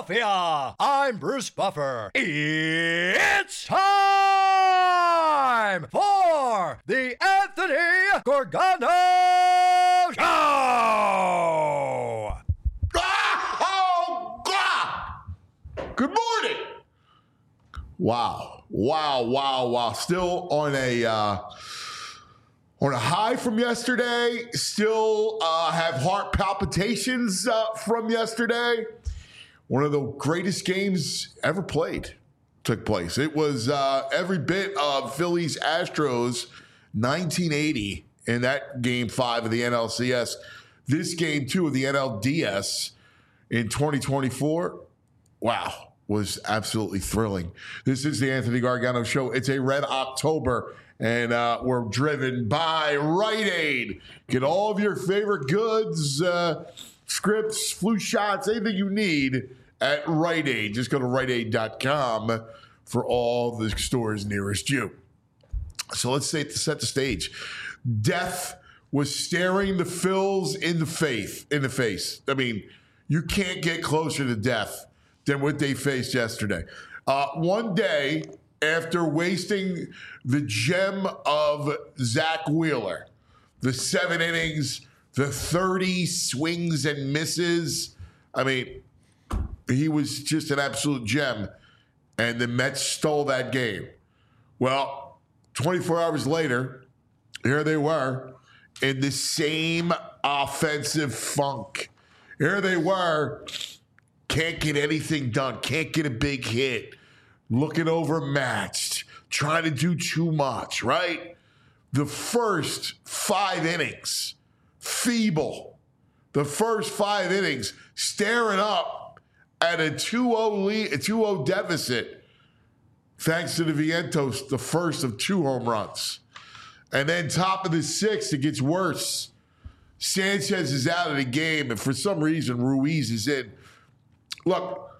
Philadelphia. I'm Bruce Buffer. It's time for the Anthony Gargano Show. Oh, God. Good morning. Wow. Still on a high from yesterday. Still have heart palpitations from yesterday. One of the greatest games ever played took place. It was every bit of Phillies Astros 1980 in that game 5 of the NLCS. This game 2 of the NLDS in 2024. Wow, was absolutely thrilling. This is the Anthony Gargano Show. It's a red October, and we're driven by Rite Aid. Get all of your favorite goods, scripts, flu shots, anything you need at Rite Aid. Just go to riteaid.com for all the stores nearest you. So let's set the stage. Death was staring the Phils in the face. I mean, you can't get closer to death than what they faced yesterday. One day after wasting the gem of Zach Wheeler, the 7 innings, the 30 swings and misses. I mean, he was just an absolute gem, and the Mets stole that game. Well, 24 hours later, here they were in the same offensive funk. Here they were, can't get anything done, can't get a big hit, looking overmatched, trying to do too much, right? The first 5 innings, feeble. The first 5 innings, staring up at a 2-0 lead, a 2-0 deficit, thanks to the Vientos, the first of 2 home runs. And then top of the 6th, it gets worse. Sanchez is out of the game, and for some reason, Ruiz is in. Look,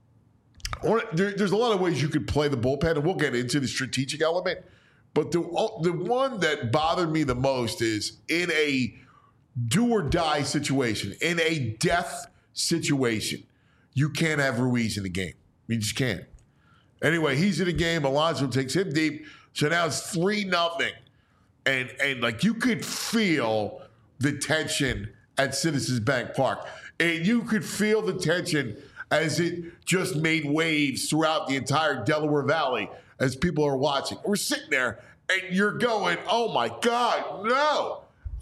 there's a lot of ways you could play the bullpen, and we'll get into the strategic element. But the one that bothered me the most is in a do-or-die situation, in a death situation, you can't have Ruiz in the game. You just can't. Anyway, he's in the game. Alonso takes him deep. So now it's 3-0. And like you could feel the tension at Citizens Bank Park. And you could feel the tension as it just made waves throughout the entire Delaware Valley as people are watching. We're sitting there and you're going, oh my God, no.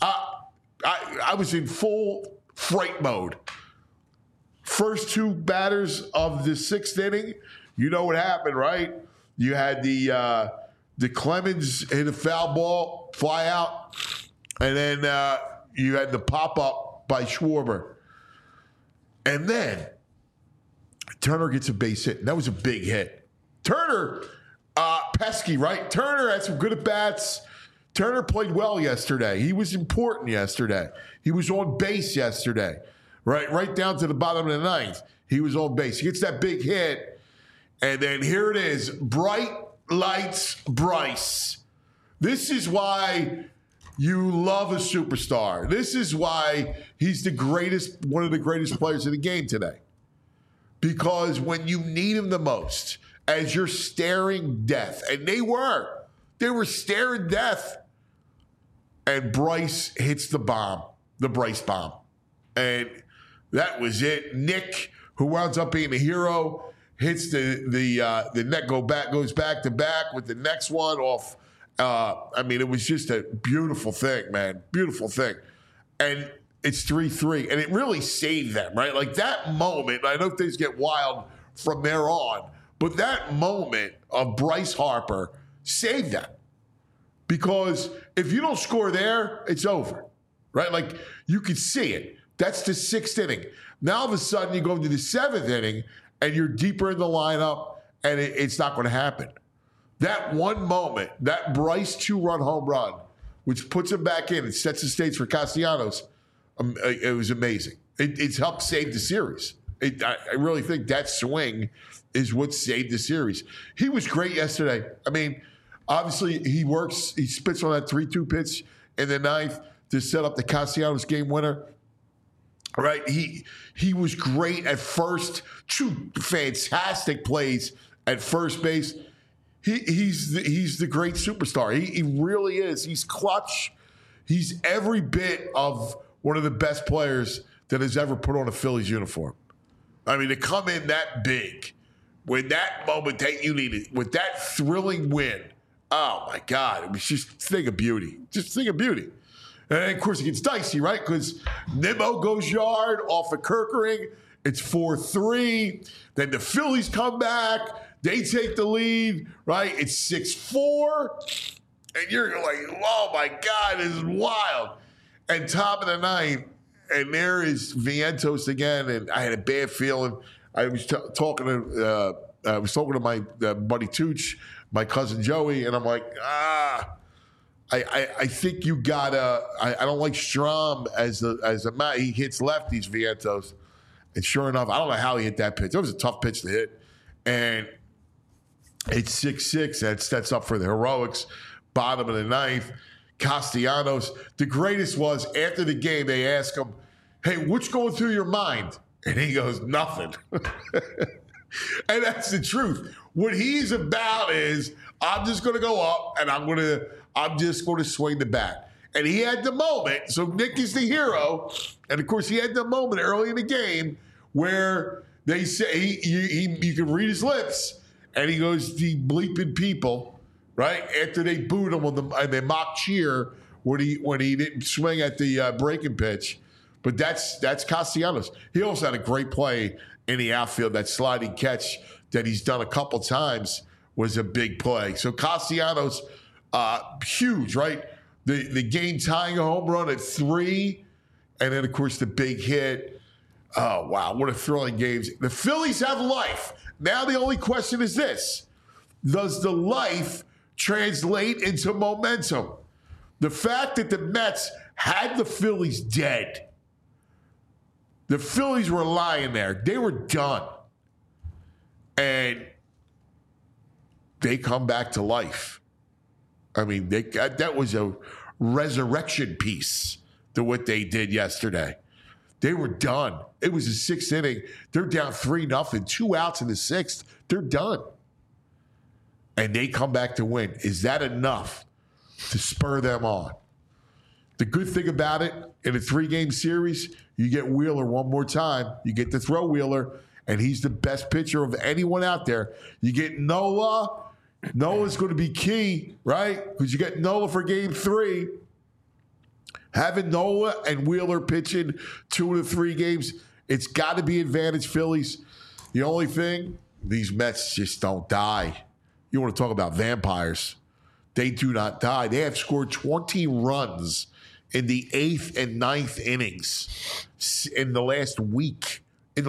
I was in full fright mode. First 2 batters of the 6th inning, you know what happened, right? You had the Clemens hit a foul ball, fly out, and then you had the pop-up by Schwarber. And then Turner gets a base hit, and that was a big hit. Turner, pesky, right? Turner had some good at-bats. Turner played well yesterday. He was important yesterday. He was on base yesterday, right down to the bottom of the 9th. He was on base. He gets that big hit, and then here it is, bright lights Bryce. This is why you love a superstar. This is why he's one of the greatest players in the game today. Because when you need him the most, as you're staring death, and they were staring death, and Bryce hits the Bryce bomb. And that was it. Nick, who winds up being a hero, hits the net goes back to back with the next one off. I mean, it was just a beautiful thing, man. Beautiful thing. And it's 3-3. And it really saved them, right? Like that moment, I know things get wild from there on, but that moment of Bryce Harper saved them. Because if you don't score there, it's over, right? Like you could see it. That's the 6th inning. Now all of a sudden you go into the 7th inning and you're deeper in the lineup and it's not going to happen. That one moment, that Bryce 2-run home run, which puts him back in and sets the stage for Castellanos, it was amazing. It's helped save the series. I really think that swing is what saved the series. He was great yesterday. I mean, obviously he spits on that 3-2 pitch in the 9th to set up the Castellanos game winner. right? He was great at first. Two fantastic plays at first base. He's the great superstar. He really is. He's clutch. He's every bit of one of the best players that has ever put on a Phillies uniform. I mean, to come in that big, when that moment that you needed, with that thrilling win, oh my God, it was just a thing of beauty. Just a thing of beauty. And then, of course, it gets dicey, right? Because Nimmo goes yard off of Kerkering. It's 4-3. Then the Phillies come back. They take the lead, right? It's 6-4. And you're like, oh my God, this is wild. And top of the ninth, and there is Vientos again. And I had a bad feeling. I was talking to my buddy Tooch, my cousin Joey, and I'm like, I think you gotta. I don't like Strom as a man. He hits lefties, Vientos, and sure enough, I don't know how he hit that pitch. It was a tough pitch to hit, and it's 6-6. That sets up for the heroics. Bottom of the ninth, Castellanos. The greatest was after the game. They ask him, "Hey, what's going through your mind?" And he goes, "Nothing." And that's the truth. What he's about is, I'm just going to go up and I'm just going to swing the bat. And he had the moment. So Nick is the hero. And of course, he had the moment early in the game where they say you can read his lips, and he goes, "The bleeping people," right? After they booed him and they mock cheer when he didn't swing at the breaking pitch. But that's Castellanos. He also had a great play in the outfield. That sliding catch that he's done a couple times was a big play. So Castellanos, huge, right? The game tying a home run at 3, and then of course the big hit. Oh wow, what a thrilling game! The Phillies have life. Now the only question is this: does the life translate into momentum? The fact that the Mets had the Phillies dead. The Phillies were lying there. They were done. And they come back to life. I mean, that was a resurrection piece to what they did yesterday. They were done. It was a 6th inning. They're down 3-0, 2 outs in the 6th. They're done. And they come back to win. Is that enough to spur them on? The good thing about it, in a 3-game series, you get Wheeler one more time. You get to throw Wheeler, and he's the best pitcher of anyone out there. You get Nola. Nola's going to be key, right? Because you get Nola for game 3. Having Nola and Wheeler pitching 2 of the 3 games, it's got to be advantage Phillies. The only thing, these Mets just don't die. You want to talk about vampires. They do not die. They have scored 20 runs in the 8th and 9th innings in the last week.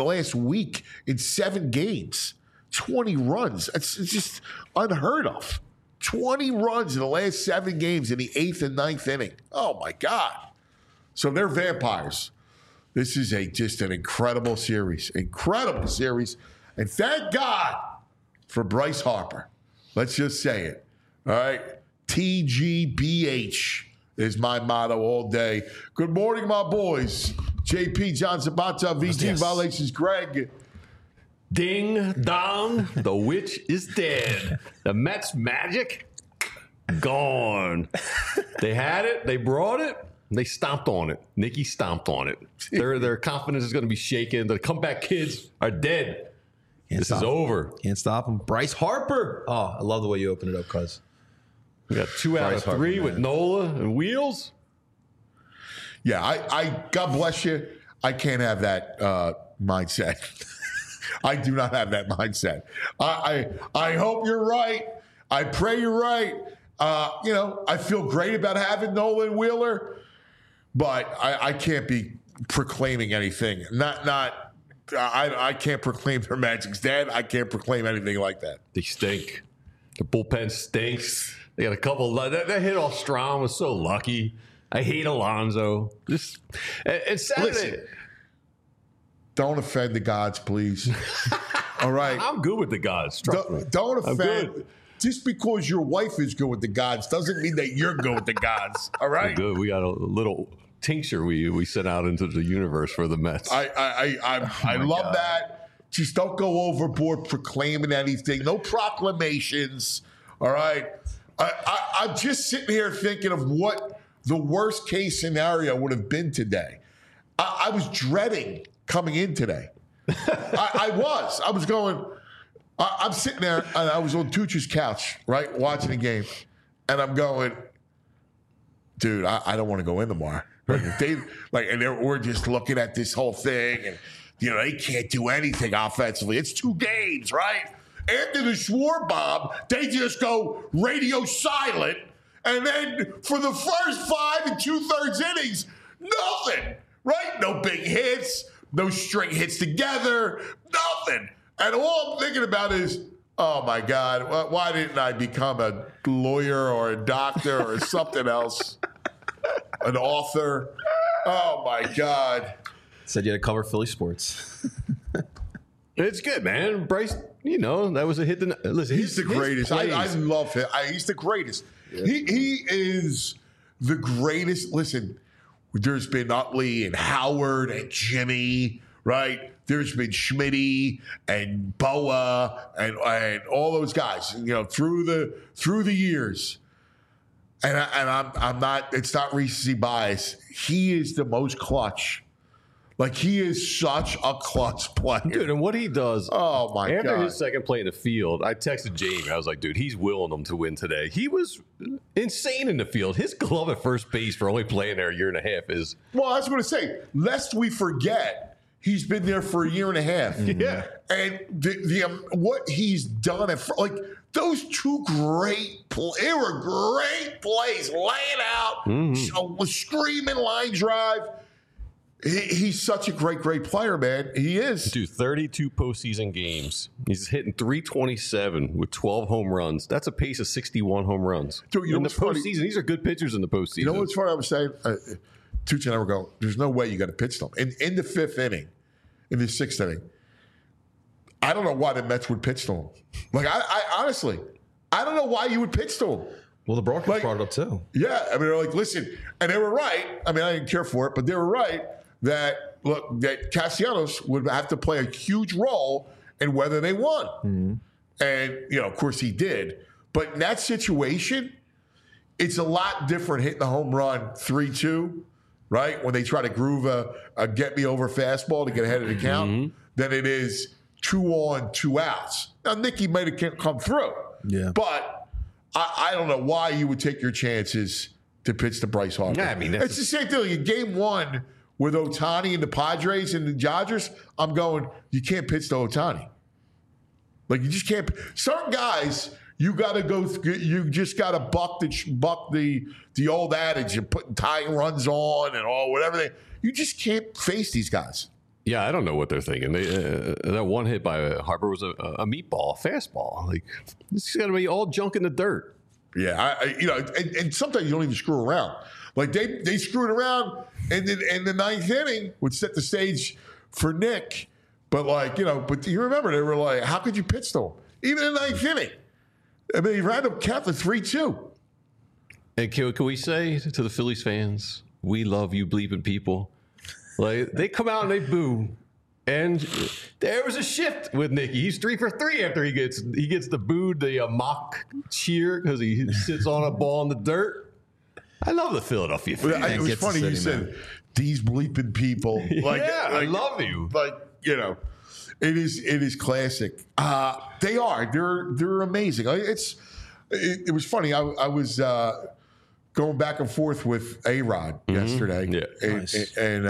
In 7 games. 20 runs. It's just unheard of. 20 runs in the last 7 games in the 8th and 9th inning. Oh, my God. So they're vampires. This is just an incredible series. Incredible series. And thank God for Bryce Harper. Let's just say it. All right? TGBH is my motto all day. Good morning, my boys. JP, John Zabata, VG Violations, Greg. Ding dong, the witch is dead. The Mets magic, gone. They had it, they brought it, they stomped on it. Nicky stomped on it. Their confidence is going to be shaken. The comeback kids are dead. This is over. Can't stop them. Bryce Harper. Oh, I love the way you open it up, cuz. We got 2 out of 3 with Nola and Wheels. Yeah, I God bless you. I can't have that mindset. I do not have that mindset. I hope you're right. I pray you're right. I feel great about having Nola and Wheeler, but I can't be proclaiming anything. I can't proclaim their magic's dead. I can't proclaim anything like that. They stink. The bullpen stinks. They got a couple. That hit off Strom was so lucky. I hate Alonso. It's Saturday. Listen, don't offend the gods, please. All right. I'm good with the gods. Don't offend. Just because your wife is good with the gods doesn't mean that you're good with the gods. All right. We're good. We got a little tincture we sent out into the universe for the Mets. I love that. Just don't go overboard proclaiming anything. No proclamations. All right. I'm just sitting here thinking of what the worst case scenario would have been today. I was dreading coming in today. I was going. I'm sitting there, and I was on Tucci's couch, right, watching the game, and I'm going, dude, I don't want to go in tomorrow. We're just looking at this whole thing, and they can't do anything offensively. It's 2 games, right? After the Schwarber bomb, they just go radio silent, and then for the first 5 2/3 innings, nothing, right? No big hits, no string hits together, nothing. And all I'm thinking about is, oh my God, why didn't I become a lawyer or a doctor or something else? An author? Oh my God. Said you had to cover Philly sports. It's good, man. Bryce, that was a hit. Listen, he's the greatest. I love him. He's the greatest. Yeah. He is the greatest. Listen, there's been Utley and Howard and Jimmy, right? There's been Schmitty and Boa and all those guys, through the years. And I'm not. It's not recency bias. He is the most clutch. Like, he is such a clutch player. Dude, and what he does. Oh, my God. After his second play in the field, I texted Jamie. I was like, dude, he's willing them to win today. He was insane in the field. His glove at first base for only playing there a year and a half is. Well, I was going to say, lest we forget, he's been there for a year and a half. Yeah. And what he's done, those 2 great plays, they were great plays, laying out, screaming line drive. He's such a great player, man. He is. Dude, 32 postseason games. He's hitting .327 with 12 home runs. That's a pace of 61 home runs. Dude, in the postseason, these are good pitchers in the postseason. You know what's funny? I was saying, Tucci and I were going, there's no way you got to pitch them. In the 5th inning, in the 6th inning, I don't know why the Mets would pitch to him. I honestly, I don't know why you would pitch to him. Well, the broadcast brought it up too. Yeah, I mean, they're like, listen, and they were right. I mean, I didn't care for it, but they were right that Castellanos would have to play a huge role in whether they won. Mm-hmm. And, of course he did. But in that situation, it's a lot different hitting the home run 3-2, right? When they try to groove a get-me-over fastball to get ahead of the count, than it is 2 on, 2 outs. Now, Nicky might have come through. Yeah. But I don't know why you would take your chances to pitch to Bryce Harper. Yeah, I mean, it's the same thing. In Game 1 with Ohtani and the Padres and the Dodgers, I'm going, you can't pitch to Ohtani. You just can't. Certain guys, you got to go. You just got to buck the old adage of putting tying runs on and all whatever. You just can't face these guys. Yeah, I don't know what they're thinking. That one hit by Harper was a meatball, a fastball. This is going to be all junk in the dirt. Yeah, and sometimes you don't even screw around. They screwed around, and in the 9th inning would set the stage for Nick. But but you remember they were like, how could you pitch to him? Even in the 9th inning. I mean, he ran up count to 3-2. And can we say to the Phillies fans, we love you bleeping people? They come out and they boo. And there was a shift with Nicky. He's 3 for 3 after he gets the booed, the mock cheer because he sits on a ball in the dirt. I love the Philadelphia fans. It was funny you said these bleeping people. I love you. It is classic. They are. They're amazing. It was funny. I was going back and forth with A-Rod yesterday. Yeah, and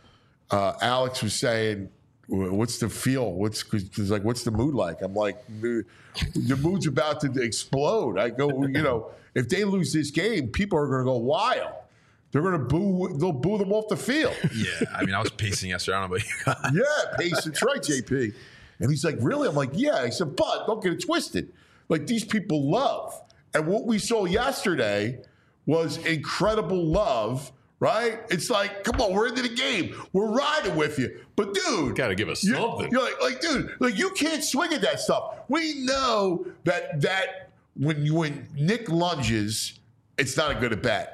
Alex was saying, what's the feel? What's the mood like? I'm like, the mood's about to explode. I go, if they lose this game, people are going to go wild. They're going to boo. They'll boo them off the field. Yeah, I mean, I was pacing yesterday. I don't know about you guys. Yeah, pacing. That's right, JP. And he's like, really? I'm like, yeah. He said, but don't get it twisted. These people love. And what we saw yesterday was incredible love. Right? It's like, come on, we're into the game. We're riding with you. But, dude. Got to give us something. You're like, dude, you can't swing at that stuff. We know that when Nick lunges, it's not a good at bat.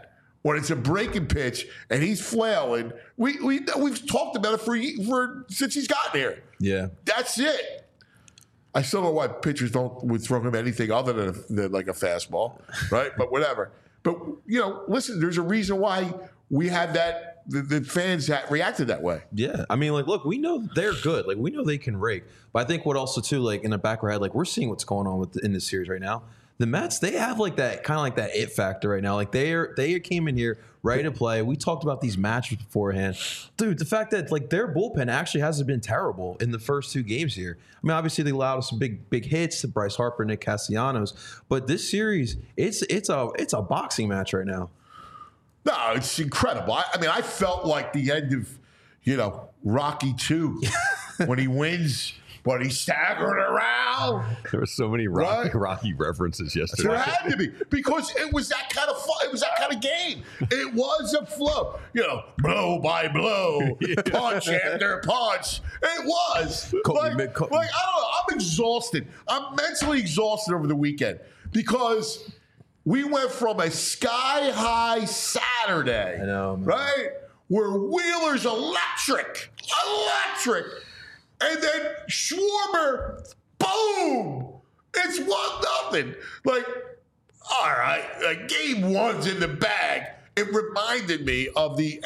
when it's a breaking pitch and he's flailing. We've talked about it for since he's gotten here. Yeah. That's it. I still don't know why pitchers would throw him anything other than like a fastball, right? But whatever. But listen, there's a reason why we had that. The fans reacted that way. Yeah. I mean, like, look, we know they're good. Like, we know they can rake. But I think what also, too, like, in the back of our head, like, we're seeing what's going on in this series right now. The Mets, they have, like, that kind of like that it factor right now. Like, they came in here ready to play. We talked about these matches beforehand. Dude, the fact that, like, their bullpen actually hasn't been terrible in the first 2 games here. I mean, obviously, they allowed us some big hits to Bryce Harper, Nick Castellanos. But this series, it's a boxing match right now. No, it's incredible. I mean, I felt like the end of, Rocky II when he wins, but he's staggering around. There were so many Rocky references yesterday. There had to be, because it was that kind of fun. It was that kind of game. It was a flow. Blow by blow, punch after punch. It was. I don't know. I'm exhausted. I'm mentally exhausted over the weekend because we went from a sky-high Saturday, I know, man. right, where Wheeler's electric, and then Schwarber, boom, it's 1-0. Like, all right, like game 1's in the bag. It reminded me of the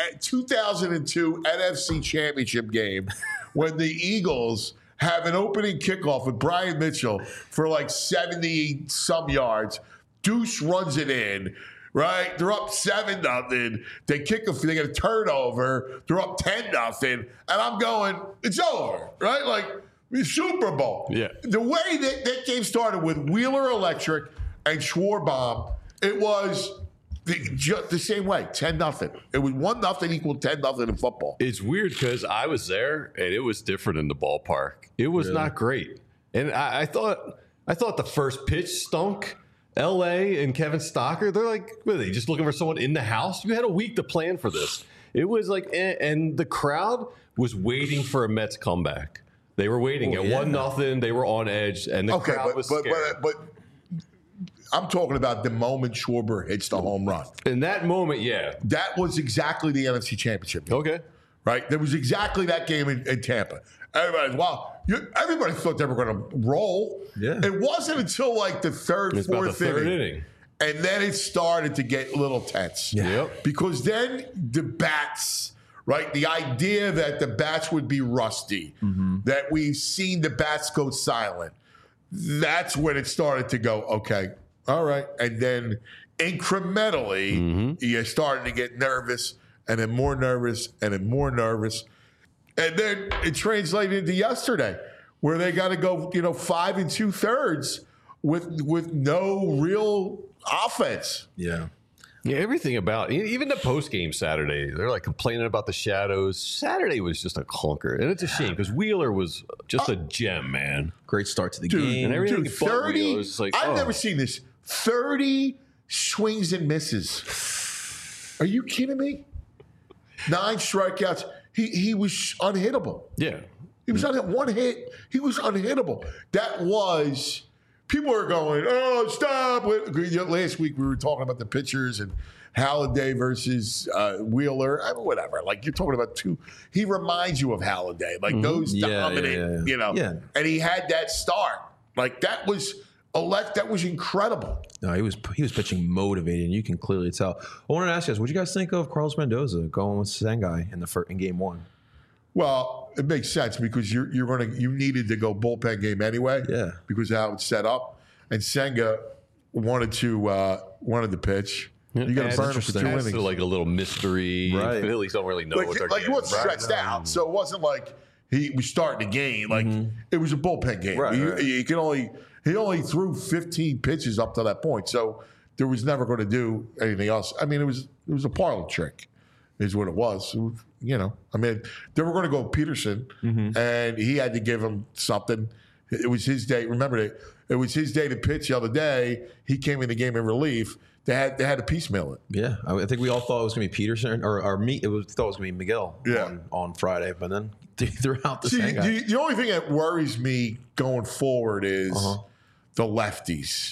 2002 NFC Championship game when the Eagles have an opening kickoff with Brian Mitchell for like 70-some yards. Deuce runs it in, right? They're up 7-0. They get a turnover. They're up 10-0. And I'm going, it's over, right? Like, Super Bowl. Yeah. The way that game started with Wheeler Electric and Schwarbaum, it was the same way, 10-0. It was 1-0 equal 10-0 in football. It's weird because I was there and it was different in the ballpark. It was not great. And I thought the first pitch stunk. LA and Kevin Stocker, they're like, what are they, just looking for someone in the house? You had a week to plan for this. It was like, and the crowd was waiting for a Mets comeback. They were waiting at 1-0. They were on edge, and the crowd was scared. But I'm talking about the moment Schwarber hits the home run. In that moment, yeah. That was exactly the NFC Championship game. Okay. Right? There was exactly that game in Tampa. Everybody thought they were going to roll. Yeah. It wasn't until like the third, fourth inning. And then it started to get a little tense. Yeah. Yep. Because then the bats, right? The idea that the bats would be rusty, that we've seen the bats go silent, that's when it started to go, okay, all right. And then incrementally, you're starting to get nervous, and then more nervous, and then more nervous. And then it translated into yesterday, where they got to go, 5 2/3 with no real offense. Yeah. Yeah, everything about even the post game Saturday, they're like complaining about the shadows. Saturday was just a clunker, and it's a shame because Wheeler was just a gem, man. Great start to the game. And everything Dude, but 30. Wheeler was like, I've never seen this. 30 swings and misses. Are you kidding me? 9 strikeouts. He was unhittable. Yeah. He was on one hit. He was unhittable. That was. People are going, oh, stop. Last week we were talking about the pitchers and Halladay versus Wheeler. I mean, whatever. Like, you're talking about two. He reminds you of Halladay. Like, those dominant, Yeah. And he had that start. Like, that was incredible. No, he was pitching motivated, and you can clearly tell. I wanted to ask you guys, what do you guys think of Carlos Mendoza going with Sengai in game 1? Well, it makes sense because you needed to go bullpen game anyway. Yeah. Because of how it's set up, and Senga wanted to pitch. You got to burn him for 2 innings. It's like a little mystery. Right. Phillies don't really know what they're like getting. he wasn't stretched out, so it wasn't like he was starting the game. Like it was a bullpen game. Right, He only threw 15 pitches up to that point, so there was never going to do anything else. I mean, it was a parlor trick, is what it was. I mean, they were going to go Peterson, and he had to give him something. It was his day. Remember, it was his day to pitch the other day. He came in the game in relief. They had to piecemeal it. Yeah, I think we all thought it was going to be Peterson thought it was going to be Miguel on Friday, but then throughout the the only thing that worries me going forward is the lefties.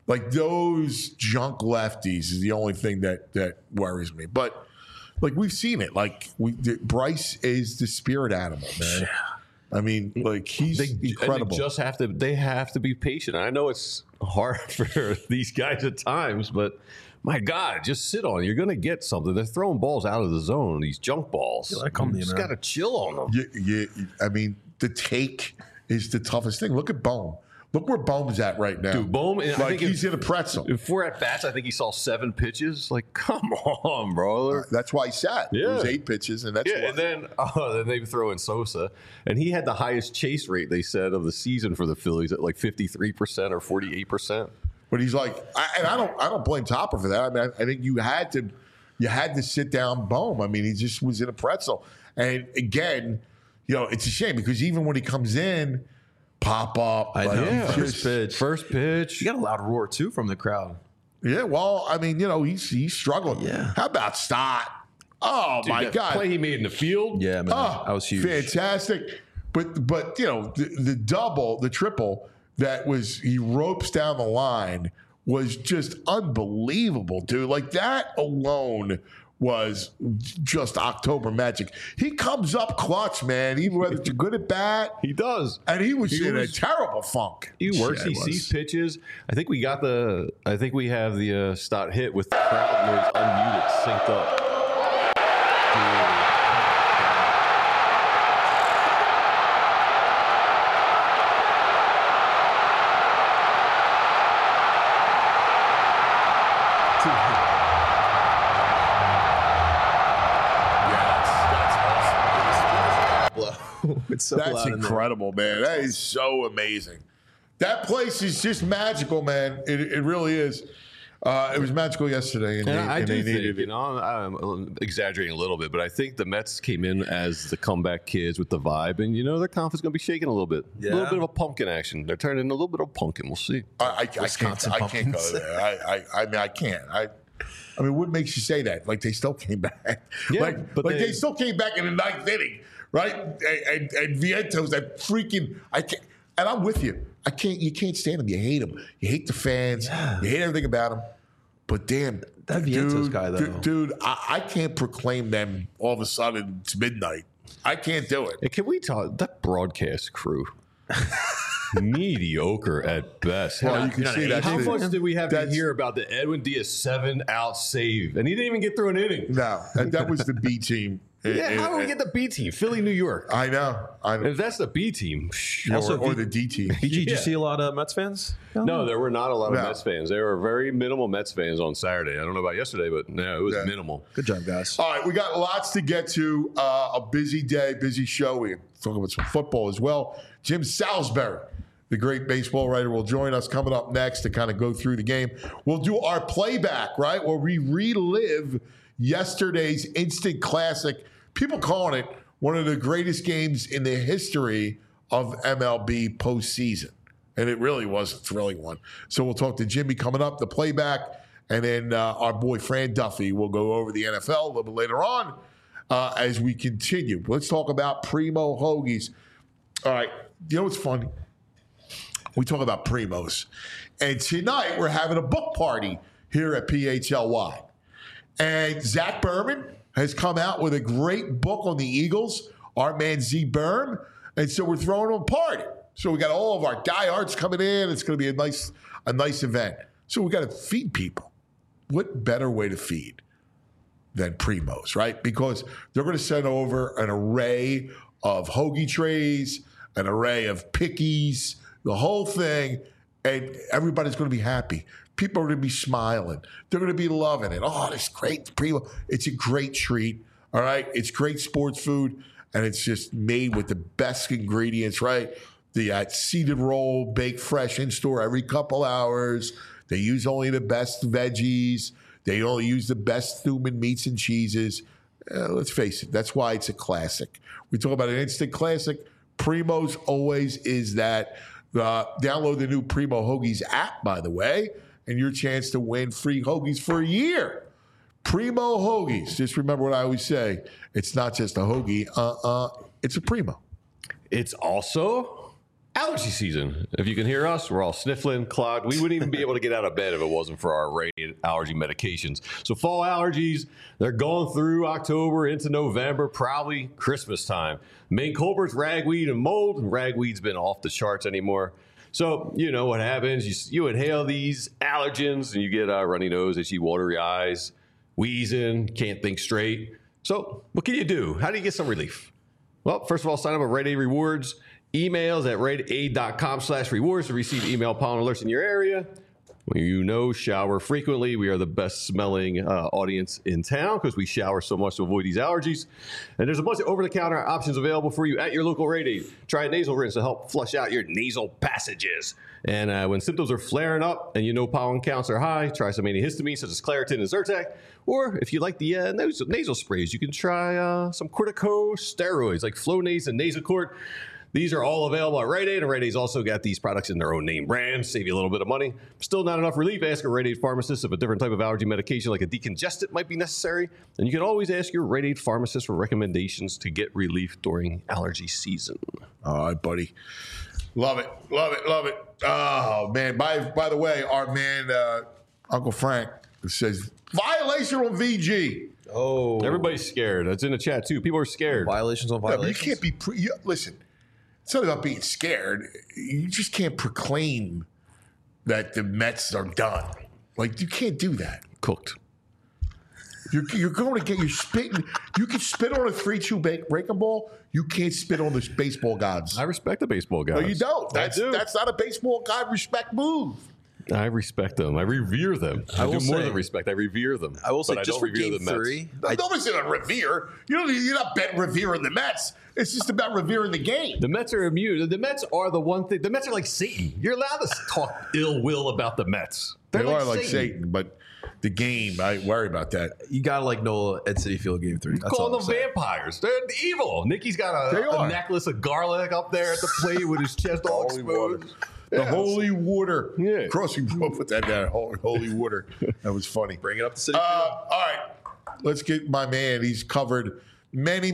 Like those junk lefties is the only thing that worries me. But like we've seen it. Like Bryce is the spirit animal, man. I mean, like he's incredible. They have to be patient. I know it's hard for these guys at times, but my God, just sit on it. You're going to get something. They're throwing balls out of the zone, these junk balls. You just got to chill on them. I mean, the take is the toughest thing. Look at Bohm. Look where Bohm's at right now. Dude, Bohm, like I think he's in a pretzel. If we're at bats, I think he saw 7 pitches. Like, come on, bro. That's why he sat. Yeah. It was 8 pitches, and that's why. And then they throw in Sosa, and he had the highest chase rate, they said, of the season for the Phillies at like 53% or 48%. But he's like, I don't blame Topper for that. I mean, I think you had to sit down Bohm. I mean, he just was in a pretzel. And again, it's a shame because even when he comes in, pop up. I know. Yeah. First pitch. You got a loud roar too from the crowd. Yeah, well, I mean, he's struggling. Yeah. How about Stott? Oh, dude, my God. Play he made in the field. Yeah, man. That was huge. Fantastic. But the double, the triple that he ropes down the line was just unbelievable, dude. Like that alone was just October magic. He comes up clutch, man. Even whether you're good at bat, he does. And he was in a terrible funk. He works. He sees pitches. I think we have the Stott hit with the crowd noise unmuted, synced up. It's so That's incredible, man. That is so amazing. That place is just magical, man. It really is. It was magical yesterday, and I do needed think, it. I'm exaggerating a little bit, but I think the Mets came in as the comeback kids with the vibe, and their confidence going to be shaking a little bit. Yeah. A little bit of a pumpkin action. They're turning into a little bit of pumpkin. We'll see. I can't go there. I mean, I can't. I mean, what makes you say that? Like they still came back. Yeah, they still came back in the 9th inning. Right, and Vientos, that freaking I can't, and I'm with you. You can't stand them. You hate them. You hate the fans. Yeah. You hate everything about them. But damn, that Vientos guy though, dude, I can't proclaim them all of a sudden. It's midnight. I can't do it. Hey, can we talk that broadcast crew? Mediocre at best. Well, you can see that. How much did we have to hear about the Edwin Diaz 7-out save, and he didn't even get through an inning? No, that was the B team. How do we get the B team? Philly, New York. I know. If that's the B team, or the D team. Did you see a lot of Mets fans? No, there were not a lot of Mets fans. There were very minimal Mets fans on Saturday. I don't know about yesterday, but no, it was minimal. Good job, guys. All right, we got lots to get to. A busy day, busy show. We can talk about some football as well. Jim Salisbury, the great baseball writer, will join us coming up next to kind of go through the game. We'll do our playback, right, where we relive yesterday's instant classic. People calling it one of the greatest games in the history of MLB postseason. And it really was a thrilling one. So we'll talk to Jimmy coming up, the playback, and then our boy Fran Duffy will go over the NFL a little bit later on as we continue. Let's talk about Primo Hoagies. All right, you know what's funny? We talk about Primos. And tonight we're having a book party here at PHLY. And Zach Berman has come out with a great book on the Eagles, our man Z Berm. And so we're throwing him a party. So we got all of our diehards coming in. It's going to be a nice event. So we got to feed people. What better way to feed than Primos, right? Because they're going to send over an array of hoagie trays, an array of pickies, the whole thing, and everybody's going to be happy. People are going to be smiling. They're going to be loving it. Oh, it's great. Primo. It's a great treat, all right? It's great sports food, and it's just made with the best ingredients, right? The seeded roll, baked fresh in store every couple hours. They use only the best veggies. They only use the best human meats and cheeses. Let's face it, that's why it's a classic. We talk about an instant classic. Primo's always is that. Download the new Primo Hoagies app, by the way, and your chance to win free hoagies for a year. Primo Hoagies. Just remember what I always say. It's not just a hoagie. It's a Primo. It's also Allergy season. If you can hear us, we're all sniffling, clogged. We wouldn't even be able to get out of bed if it wasn't for our rated allergy medications. So fall allergies, they're going through October into November, probably Christmas time. Main culprits, ragweed and mold. And ragweed's been off the charts anymore. So you know what happens. You inhale these allergens and you get a runny nose, itchy, watery eyes, wheezing, can't think straight. So what can you do? How do you get some relief? Well, first of all, sign up at Rite Aid Rewards. Emails at riteaid.com/rewards to receive email pollen alerts in your area. When you know, shower frequently. We are the best smelling audience in town because we shower so much to avoid these allergies. And there's a bunch of over-the-counter options available for you at your local Rite Aid. Try a nasal rinse to help flush out your nasal passages. And when symptoms are flaring up and you know pollen counts are high, try some antihistamines such as Claritin and Zyrtec. Or if you like the nasal sprays, you can try some corticosteroids like Flonase and Nasacort. These are all available at Rite Aid, and Rite Aid's also got these products in their own name brand, save you a little bit of money. Still not enough relief? Ask a Rite Aid pharmacist if a different type of allergy medication like a decongestant might be necessary. And you can always ask your Rite Aid pharmacist for recommendations to get relief during allergy season. All right, buddy. Love it. Love it. Love it. Oh, man. By the way, our man, Uncle Frank, says, violation on VG. Oh. Everybody's scared. That's in the chat, too. People are scared. Violations on violations. You can't be... listen. It's not about being scared. You just can't proclaim that the Mets are done. Like, you can't do that. Cooked. You're going to get your spitting. You can spit on a 3-2 breaking ball. You can't spit on the baseball gods. I respect the baseball guys. No, you don't. That's not a baseball god respect move. I respect them. I revere them. I do more than respect. I revere them. I will say, but just I for don't revere game the Mets. 3, Nobody's going to revere. You're not revering the Mets. It's just about revering the game. The Mets are immune. The Mets are the one thing. The Mets are like Satan. You're allowed to talk ill will about the Mets. They are like Satan, but the game, I worry about that. you gotta like Nola at Citi Field game 3. That's Call all them I'm saying. vampires. They're evil. Nicky's got a necklace of garlic up there at the plate with his chest all exposed. The holy water. Yeah. Crossing put that down. Holy water. That was funny. Bring it up to Citi Field. All right. Let's get my man. He's covered many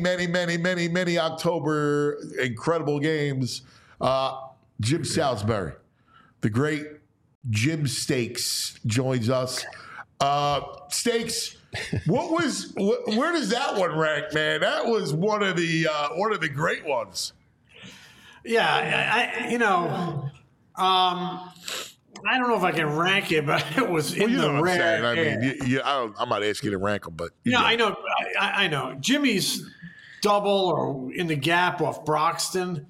October incredible games. Jim Salisbury, the great Jim Stakes, joins us. Stakes, where does that one rank, man? That was one of the great ones. Yeah, I don't know if I can rank it, but it was in You know the what I'm rare. saying. I mean, I'm not asking you to rank them, but I know. I know. Jimmy's double or in the gap off Broxton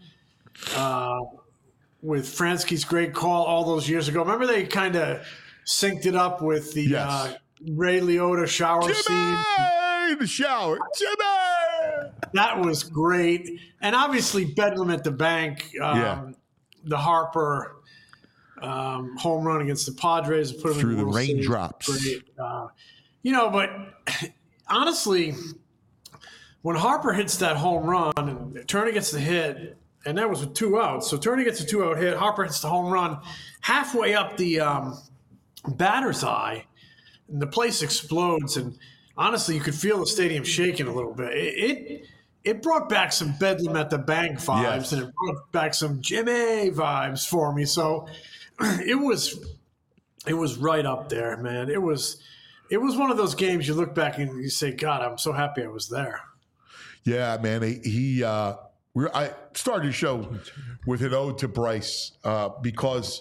with Fransky's great call all those years ago. Remember they kind of synced it up with the Ray Liotta shower scene. The shower. Jimmy! That was great. And obviously Bedlam at the Bank, the Harper home run against the Padres. Put him Through in the World Series. raindrops. Great. But honestly, when Harper hits that home run and Turner gets the hit, and that was with 2 outs. So Turner gets a 2-out hit. Harper hits the home run halfway up the batter's eye, and the place explodes. And honestly, you could feel the stadium shaking a little bit. It brought back some Bedlam at the Bank vibes, and it brought back some Jimmy vibes for me. So it was right up there, man. It was one of those games you look back and you say, God, I'm so happy I was there. Yeah, man. I started the show with an ode to Bryce because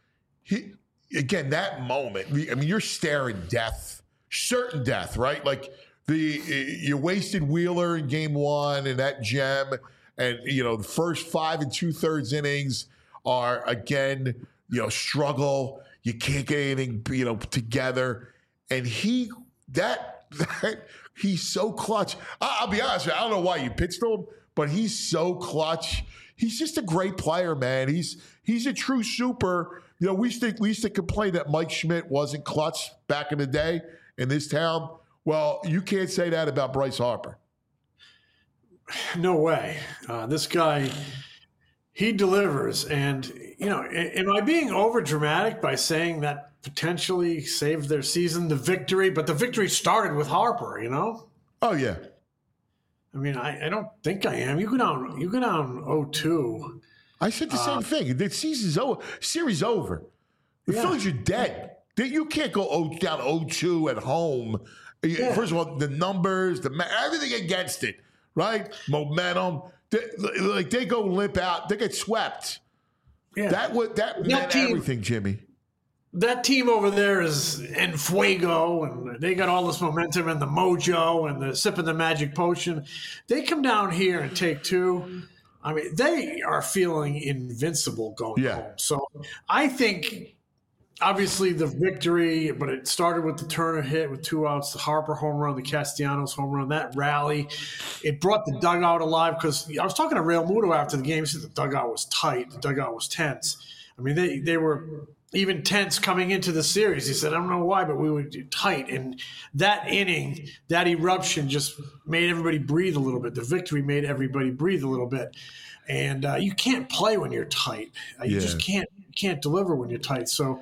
that moment. I mean, you're staring death, certain death, right? Like you wasted Wheeler in game 1 and that gem, and the first 5 2/3 innings are again, struggle. You can't get anything, together, and he's so clutch. I'll be honest with you, I don't know why you pitched to him, but he's so clutch. He's just a great player, man. He's a true super. We used to complain that Mike Schmidt wasn't clutch back in the day in this town. Well, you can't say that about Bryce Harper. No way. This guy, he delivers. And, am I being over dramatic by saying that potentially saved their season, the victory? But the victory started with Harper, Oh, yeah. I mean, I don't think I am. You go down 0-2 I said the same thing. The season's over. Series over. The Phillies are dead. You can't go down 0-2 at home. Yeah. First of all, the numbers, everything against it, right? Momentum. They go limp out. They get swept. Yeah. That meant everything, Jimmy. That team over there is en fuego, and they got all this momentum and the mojo and the sipping the magic potion. They come down here and take two. I mean, they are feeling invincible going home. So I think, obviously, the victory, but it started with the Turner hit with 2 outs, the Harper home run, the Castellanos home run, that rally. It brought the dugout alive because I was talking to Real Muto after the game. He said the dugout was tight. The dugout was tense. I mean, they were even tense coming into the series. He said, I don't know why, but we were tight. And that inning, that eruption just made everybody breathe a little bit. The victory made everybody breathe a little bit. And you can't play when you're tight. You just can't deliver when you're tight. So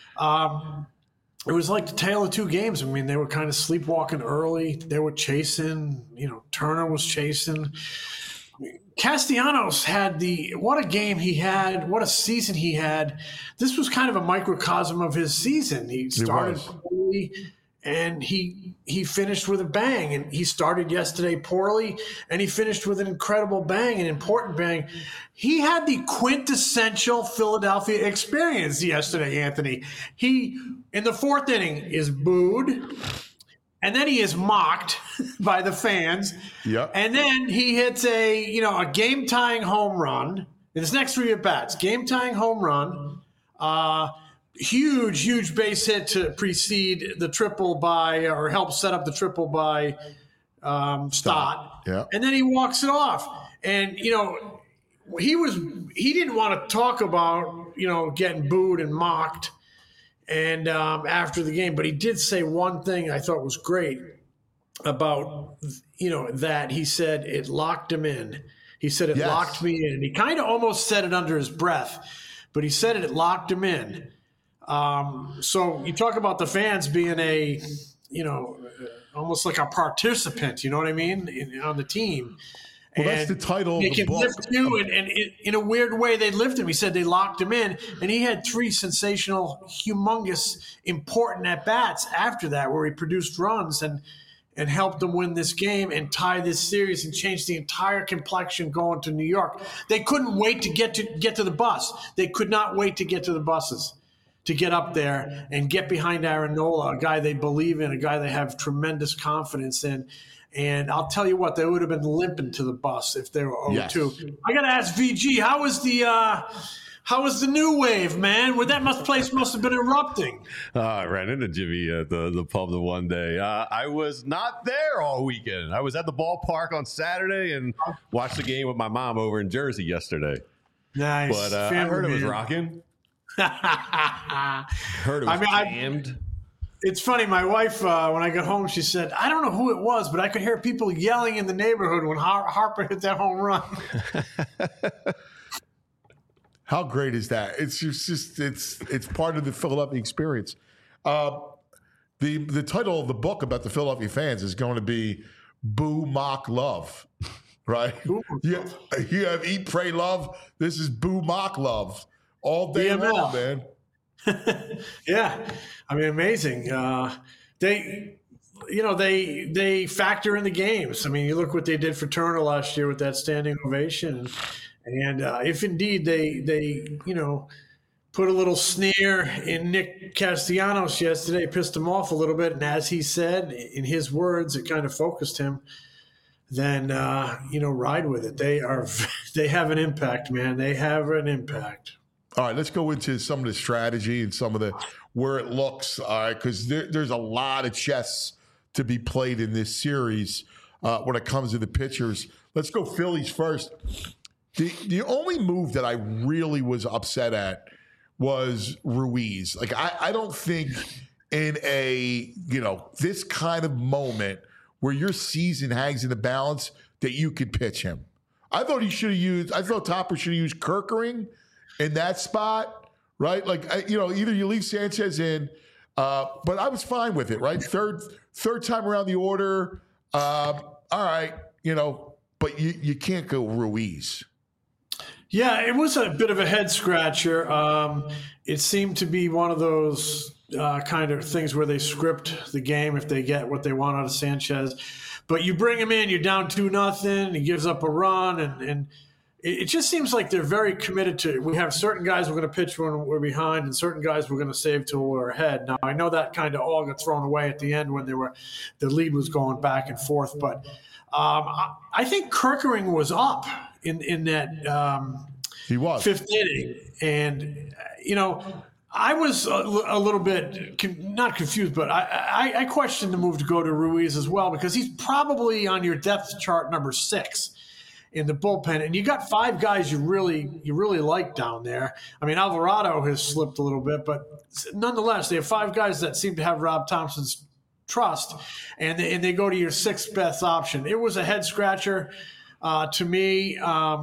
it was like the tale of two games. I mean, they were kind of sleepwalking early. They were chasing. Turner was chasing. Castellanos had what a game he had, what a season he had. This was kind of a microcosm of his season. He started poorly, and he finished with a bang. And he started yesterday poorly, and he finished with an incredible bang, an important bang. He had the quintessential Philadelphia experience yesterday, Anthony. He, in the 4th inning, is booed. And then he is mocked by the fans. Yep. And then he hits a game-tying home run in his next 3 at-bats. Game-tying home run. Huge base hit to precede the triple or help set up the triple by Stott. Yeah. And then he walks it off. And, he didn't want to talk about, getting booed and mocked. And after the game, but he did say one thing I thought was great about, that he said it locked him in. He said it locked me in. And he kind of almost said it under his breath, but he said it locked him in. So you talk about the fans being almost like a participant, you know what I mean, on the team. Well, that's the title of the book. Lift you, and in a weird way, they lift him. He said they locked him in, and he had 3 sensational, humongous, important at-bats after that where he produced runs and helped them win this game and tie this series and change the entire complexion going to New York. They couldn't wait to get to the bus. They could not wait to get to the buses, to get up there and get behind Aaron Nola, a guy they believe in, a guy they have tremendous confidence in. And I'll tell you what, they would have been limping to the bus if they were 0-2. Yes. I got to ask VG, how was the new wave, man? Place must have been erupting. I ran into Jimmy at the pub the one day. I was not there all weekend. I was at the ballpark on Saturday and watched the game with my mom over in Jersey yesterday. Nice. But I heard it was rocking. Heard it was jammed. It's funny. My wife, when I got home, she said, I don't know who it was, but I could hear people yelling in the neighborhood when Harper hit that home run. How great is that? It's just it's part of the Philadelphia experience. The title of the book about the Philadelphia fans is going to be Boo, Mock, Love, right? You have Eat, Pray, Love. This is Boo, Mock, Love all day long, man. Yeah, I mean, amazing. They factor in the games. I mean, you look what they did for Turner last year with that standing ovation, and if indeed they put a little sneer in Nick Castellanos yesterday, pissed him off a little bit, and as he said in his words, it kind of focused him. Then ride with it. They have an impact, man. They have an impact. All right, let's go into some of the strategy and some of the where it looks. All right, because there's a lot of chess to be played in this series when it comes to the pitchers. Let's go Phillies first. The only move that I really was upset at was Ruiz. Like I don't think in a this kind of moment where your season hangs in the balance that you could pitch him. I thought Topper should have used Kerkering in that spot, right? Like, either you leave Sanchez in, but I was fine with it, right? Third time around the order. All right, but you can't go Ruiz. Yeah, it was a bit of a head scratcher. It seemed to be one of those kind of things where they script the game if they get what they want out of Sanchez. But you bring him in, you're down 2-0, he gives up a run, and it just seems like they're very committed to it. We have certain guys we're going to pitch when we're behind and certain guys we're going to save till we're ahead. Now, I know that kind of all got thrown away at the end when the lead was going back and forth. But I think Kerkering was up in that He was. fifth inning. And, I was a little bit not confused, but I questioned the move to go to Ruiz as well because he's probably on your depth chart number 6 in the bullpen, and you got 5 guys you really like down there. I mean, Alvarado has slipped a little bit, but nonetheless, they have 5 guys that seem to have Rob Thompson's trust, and they go to your 6th best option. It was a head scratcher to me,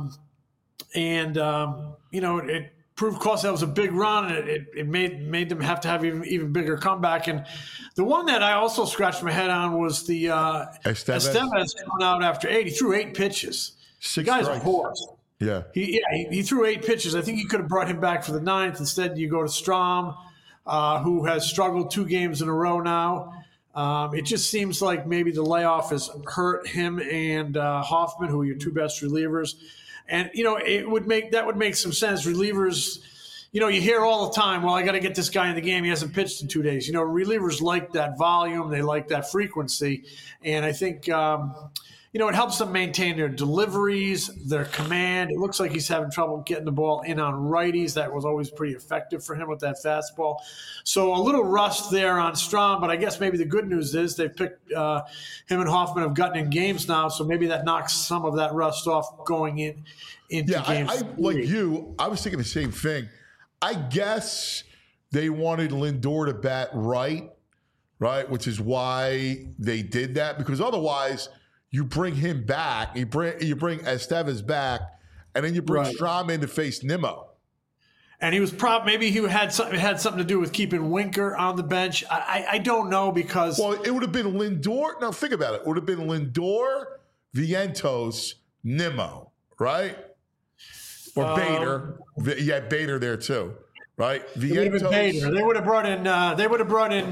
it proved, of course, that was a big run, and it made them have to have even bigger comeback. And the one that I also scratched my head on was the Estevez coming out after 8. He threw 8 pitches. 6 the guy's strikes. a horse. Yeah. He threw 8 pitches. I think he could have brought him back for the 9th. Instead, you go to Strom, who has struggled 2 games in a row now. It just seems like maybe the layoff has hurt him and Hoffman, who are your 2 best relievers. And, that would make some sense. Relievers, you hear all the time, well, I got to get this guy in the game. He hasn't pitched in 2 days. Relievers like that volume. They like that frequency. And I think, it helps them maintain their deliveries, their command. It looks like he's having trouble getting the ball in on righties. That was always pretty effective for him with that fastball. So a little rust there on Strom, but I guess maybe the good news is they've picked him and Hoffman have gotten in games now, so maybe that knocks some of that rust off going into games. I like you, I was thinking the same thing. I guess they wanted Lindor to bat right, which is why they did that, because otherwise – you bring him back, you bring Estevez back, and then you bring Strom in to face Nimmo. And he was maybe he had something to do with keeping Winker on the bench. I don't know because it would have been Lindor. Now think about it. It would have been Lindor, Vientos, Nimmo, right? Or Bader. You had Bader there too, right? Vientos. Bader. They would have brought in.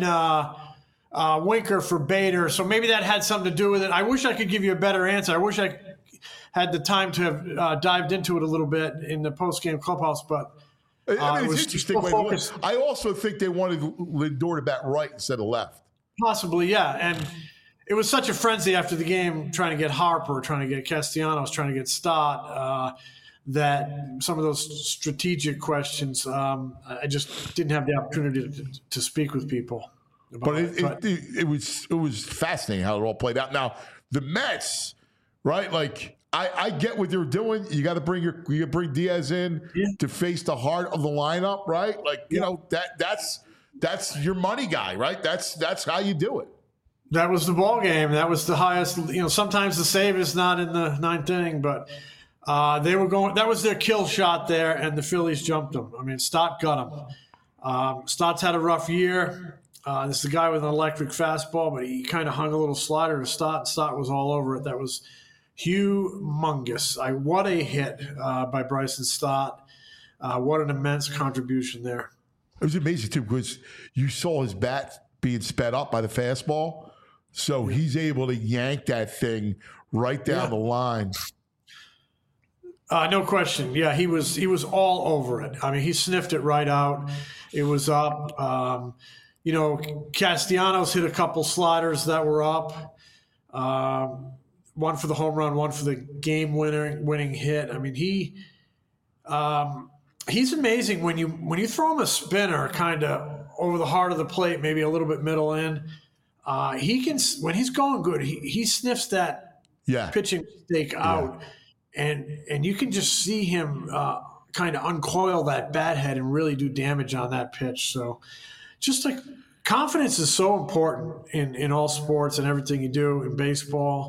Winker for Bader, so maybe that had something to do with it. I wish I could give you a better answer. I wish I had the time to have dived into it a little bit in the post-game clubhouse, but it's interesting. I also think they wanted Lindor to bat right instead of left. Possibly, yeah. And it was such a frenzy after the game trying to get Harper, trying to get Castellanos, trying to get Stott, that some of those strategic questions, I just didn't have the opportunity to speak with people. But it was fascinating how it all played out. Now the Mets, right? Like I get what they're doing. You got to bring Diaz in to face the heart of the lineup, right? Like that's your money guy, right? That's how you do it. That was the ball game. That was the highest. Sometimes the save is not in the 9th inning, but they were going. That was their kill shot there, and the Phillies jumped them. I mean, Stott got him. Stott's had a rough year. This is a guy with an electric fastball, but he kind of hung a little slider to Stott. Stott was all over it. That was humongous. What a hit by Bryson Stott. What an immense contribution there. It was amazing, too, because you saw his bat being sped up by the fastball. So he's able to yank that thing right down the line. No question. Yeah, he was all over it. I mean, he sniffed it right out. It was up. Castellanos hit a couple sliders that were up. One for the home run, one for the game-winning hit. I mean, he's amazing when you throw him a spinner kind of over the heart of the plate, maybe a little bit middle in. He can, when he's going good, he sniffs that pitching mistake out, and you can just see him kind of uncoil that bat head and really do damage on that pitch. So. Just like confidence is so important in all sports and everything you do in baseball.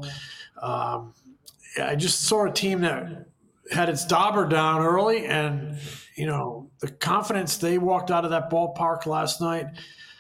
I just saw a team that had its dauber down early, and the confidence they walked out of that ballpark last night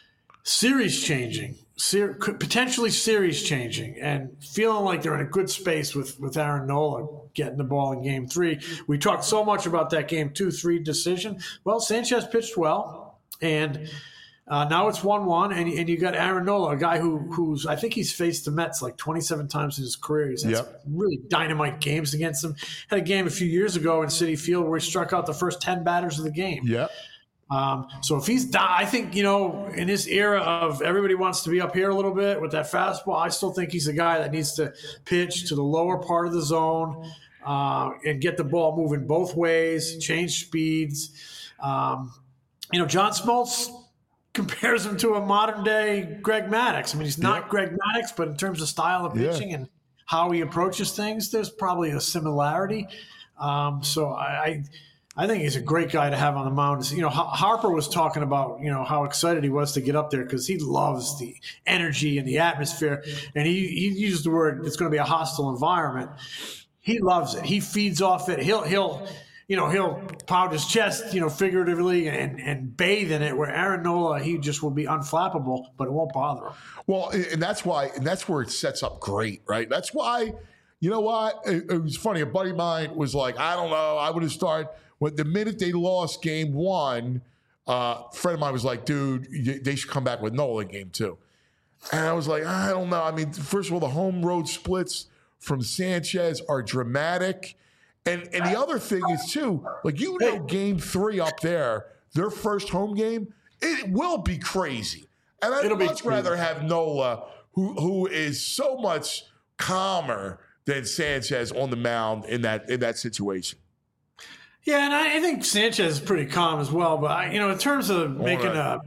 series changing, potentially series changing, and feeling like they're in a good space with Aaron Nola getting the ball in Game 3. We talked so much about that Game 2-3 decision. Well, Sanchez pitched well, and now it's 1-1, and you got Aaron Nola, a guy who's I think he's faced the Mets like 27 times in his career. He's had some really dynamite games against them. Had a game a few years ago in Citi Field where he struck out the first 10 batters of the game. Yeah. So if I think, in this era of everybody wants to be up here a little bit with that fastball, I still think he's a guy that needs to pitch to the lower part of the zone and get the ball moving both ways, change speeds. John Smoltz compares him to a modern day Greg Maddux. I mean, he's not Greg Maddux, but in terms of style of pitching and how he approaches things, there's probably a similarity. So I think he's a great guy to have on the mound. Harper was talking about, how excited he was to get up there because he loves the energy and the atmosphere. And he used the word, it's going to be a hostile environment. He loves it. He feeds off it. He'll pound his chest, figuratively and bathe in it, where Aaron Nola, he just will be unflappable, but it won't bother him. Well, and that's where it sets up great, right? That's why, you know what? It was funny. A buddy of mine was like, I don't know. I would have started. When the minute they lost Game 1, a friend of mine was like, dude, they should come back with Nola in Game 2. And I was like, I don't know. I mean, first of all, the home road splits from Sanchez are dramatic. And the other thing is, too, like, Game 3 up there, their first home game, it will be crazy. And I'd much rather have Nola, who is so much calmer than Sanchez on the mound in that situation. Yeah, and I think Sanchez is pretty calm as well. But in terms of making a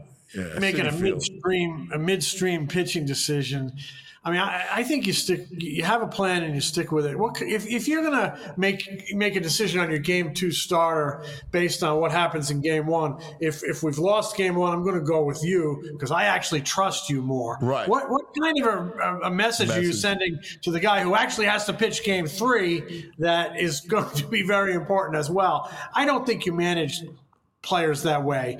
midstream pitching decision, I mean, I think you have a plan and you stick with it. If you're going to make a decision on your Game 2 starter based on what happens in Game 1, if we've lost Game 1, I'm going to go with you because I actually trust you more. Right. What kind of a message are you sending to the guy who actually has to pitch Game 3 that is going to be very important as well? I don't think you manage players that way.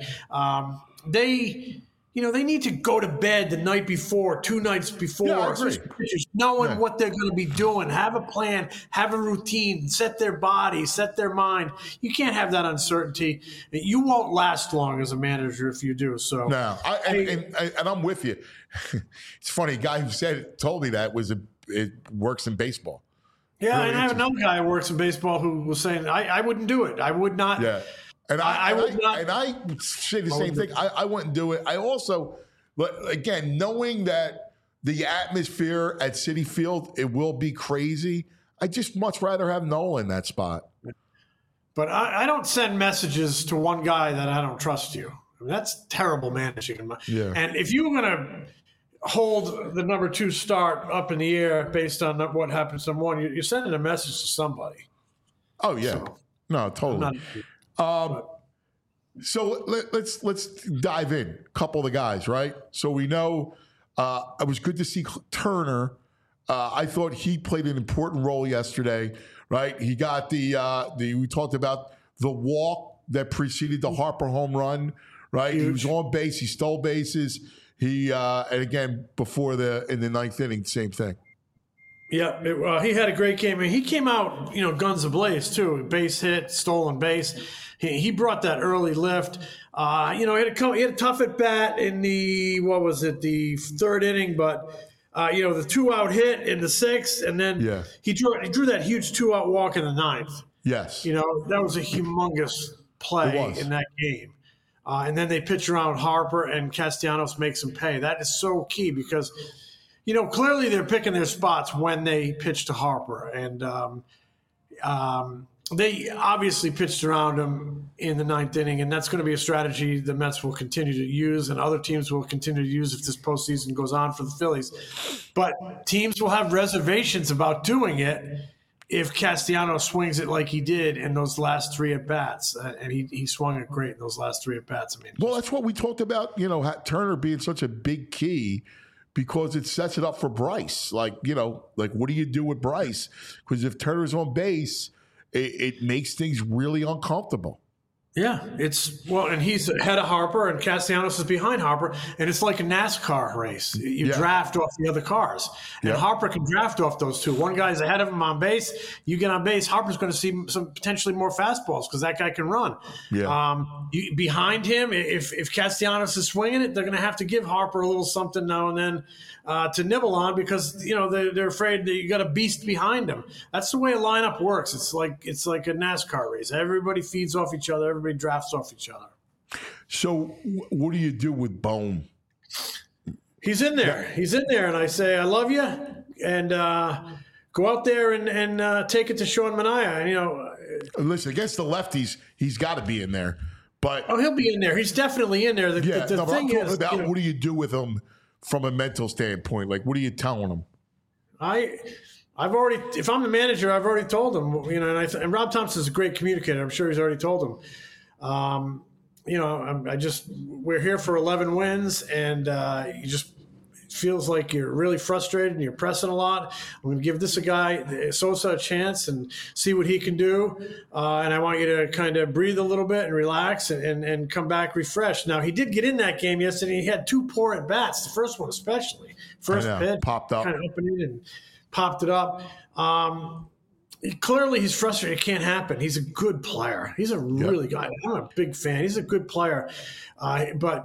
They need to go to bed the night before, 2 nights before, knowing what they're going to be doing, have a plan, have a routine, set their body, set their mind. You can't have that uncertainty. You won't last long as a manager if you do. So no, and I'm with you. It's funny. A guy who told me that it works in baseball. Yeah, really, and I have another guy who works in baseball who was saying, I wouldn't do it. I would not. Yeah. And I say the same thing. I wouldn't do it. I also, again, knowing that the atmosphere at Citi Field, it will be crazy. I just much rather have Nola in that spot. But I don't send messages to one guy that I don't trust you. I mean, that's terrible managing. Yeah. And if you're going to hold the number 2 start up in the air based on what happens to number 1, you're sending a message to somebody. Oh, yeah. No, totally. So let's dive in. A couple of the guys, right? So we know it was good to see Turner. I thought he played an important role yesterday, right? He got we talked about the walk that preceded the Harper home run, right? Huge. He was on base. He stole bases. And again, in the 9th inning, same thing. Yeah, he had a great game. I mean, he came out, guns ablaze too. Base hit, stolen base. He brought that early lift. He had a tough at bat in the 3rd inning, but the 2-out hit in the 6th, and then he drew that huge 2-out walk in the 9th. Yes, that was a humongous play in that game. And then they pitch around Harper, and Castellanos makes him pay. That is so key because. Clearly they're picking their spots when they pitch to Harper. And they obviously pitched around him in the 9th inning, and that's going to be a strategy the Mets will continue to use and other teams will continue to use if this postseason goes on for the Phillies. But teams will have reservations about doing it if Castellanos swings it like he did in those last 3 at-bats. And he swung it great in those last 3 at-bats. Well, that's what we talked about, Turner being such a big key. Because it sets it up for Bryce. What do you do with Bryce? Because if Turner's on base, it makes things really uncomfortable. Yeah, and he's ahead of Harper, and Castellanos is behind Harper, and it's like a NASCAR race. You draft off the other cars, and Harper can draft off those two. One guy's ahead of him on base. You get on base, Harper's going to see some potentially more fastballs because that guy can run. Yeah. Behind him, if Castellanos is swinging it, they're going to have to give Harper a little something now and then to nibble on because they're afraid that you got a beast behind them. That's the way a lineup works. It's like a NASCAR race. Everybody feeds off each other. Everybody drafts off each other. So what do you do with Bohm? He's in there. He's in there, and I say, I love you, and go out there and take it to Sean Manaea. And, listen, against the lefties, he's got to be in there. But he'll be in there. He's definitely in there. The thing is, what do you do with him from a mental standpoint? Like, what are you telling him? I've already, if I'm the manager, I've already told him, and Rob Thompson's a great communicator. I'm sure he's already told him. We're here for 11 wins, and you just feels like you're really frustrated and you're pressing a lot. I'm going to give this Sosa a chance and see what he can do. And I want you to kind of breathe a little bit and relax and come back refreshed. Now, he did get in that game yesterday. He had 2 poor at-bats, the first one especially. First pitch, popped up. Kind of opened it and popped it up. Clearly, he's frustrated. It can't happen. He's a good player. He's a really good. I'm a big fan. He's a good player. But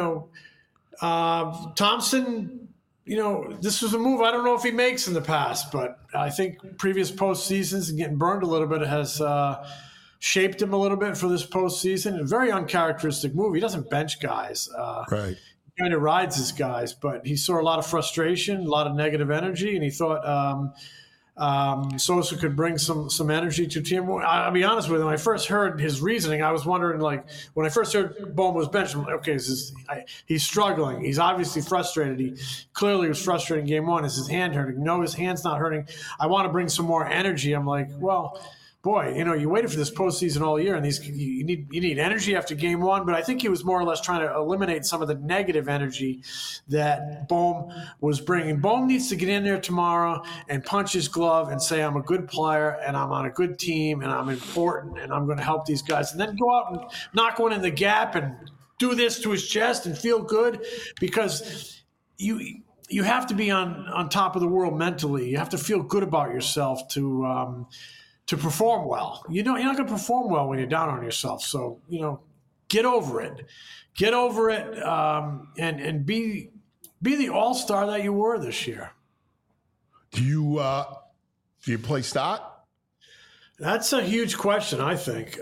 Thompson, this was a move I don't know if he makes in the past, but I think previous postseasons and getting burned a little bit has shaped him a little bit for this postseason. A very uncharacteristic move. He doesn't bench guys. Right. He kind of rides his guys, but he saw a lot of frustration, a lot of negative energy, and he thought Sosa could bring some energy to the team. I'll be honest with you, when I first heard his reasoning, I was wondering, when I first heard Bohm was benched, I'm like, okay, he's struggling. He's obviously frustrated. He clearly was frustrated in game 1. Is his hand hurting? No, his hand's not hurting. I want to bring some more energy. I'm like, well, boy, you waited for this postseason all year, and you need energy after game 1. But I think he was more or less trying to eliminate some of the negative energy that Bohm was bringing. Bohm needs to get in there tomorrow and punch his glove and say, I'm a good player, and I'm on a good team, and I'm important, and I'm going to help these guys. And then go out and knock one in the gap and do this to his chest and feel good, because you have to be on top of the world mentally. You have to feel good about yourself to perform well. You're not going to perform well when you're down on yourself. So, get over it. Get over it and be the all-star that you were this year. Do you play Stott? That's a huge question, I think.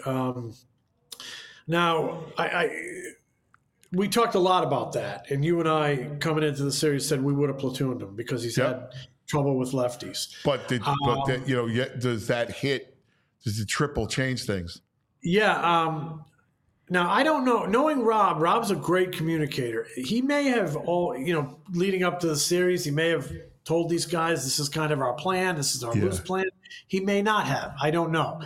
Now, we talked a lot about that, and you and I, coming into the series, said we would have platooned him because he's had trouble with lefties. But does that hit? Does the triple change things? Yeah. Now I don't know. Knowing Rob's a great communicator. He may have leading up to the series, he may have told these guys, "This is kind of our plan. This is our loose plan." He may not have. I don't know.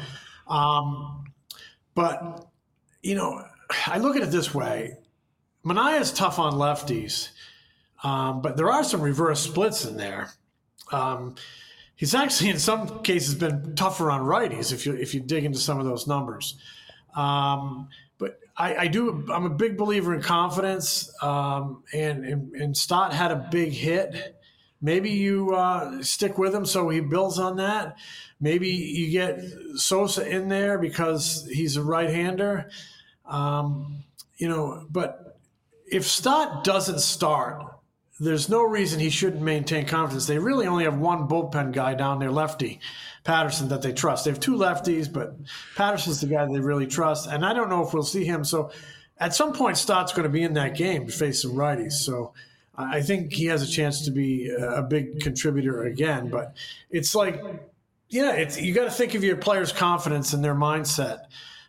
But I look at it this way: Manaea's tough on lefties, but there are some reverse splits in there. He's actually in some cases been tougher on righties if you dig into some of those numbers. But I'm a big believer in confidence, and Stott had a big hit. Maybe you stick with him so he builds on that. Maybe you get Sosa in there because he's a right-hander. But if Stott doesn't start, there's no reason he shouldn't maintain confidence. They really only have one bullpen guy down there, lefty, Patterson, that they trust. They have 2 lefties, but Patterson's the guy they really trust. And I don't know if we'll see him. So at some point, Stott's going to be in that game to face some righties. So I think he has a chance to be a big contributor again. But it's like, you got to think of your players' confidence and their mindset.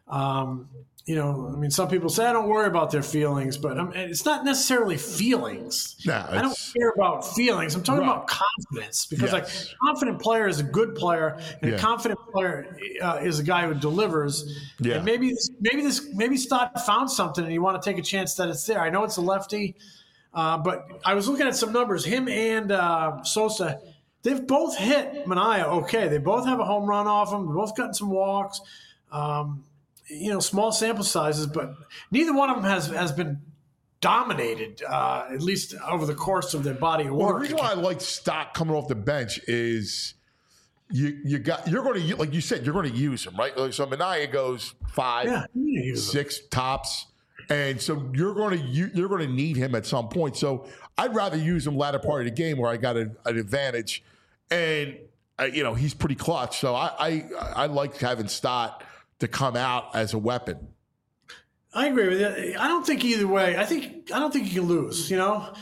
Some people say, I don't worry about their feelings, but it's not necessarily feelings. I don't care about feelings. I'm talking about confidence, because a confident player is a good player, and a confident player is a guy who delivers. Yeah. And maybe Stott found something and you want to take a chance that it's there. I know it's a lefty, but I was looking at some numbers. Him and Sosa, they've both hit Manaea okay. They both have a home run off him. They've both gotten some walks. small sample sizes, but neither one of them has been dominated, at least over the course of their body of Well, work. the reason why I like Stott coming off the bench is you're going to, like you said, you're going to use him, right? So Minaya goes 5, 6 tops, and so you're going to need him at some point. So I'd rather use him latter part of the game where I got an advantage, and he's pretty clutch. So I like having Stott to come out as a weapon. I agree with you. I don't think either way. I don't think you can lose.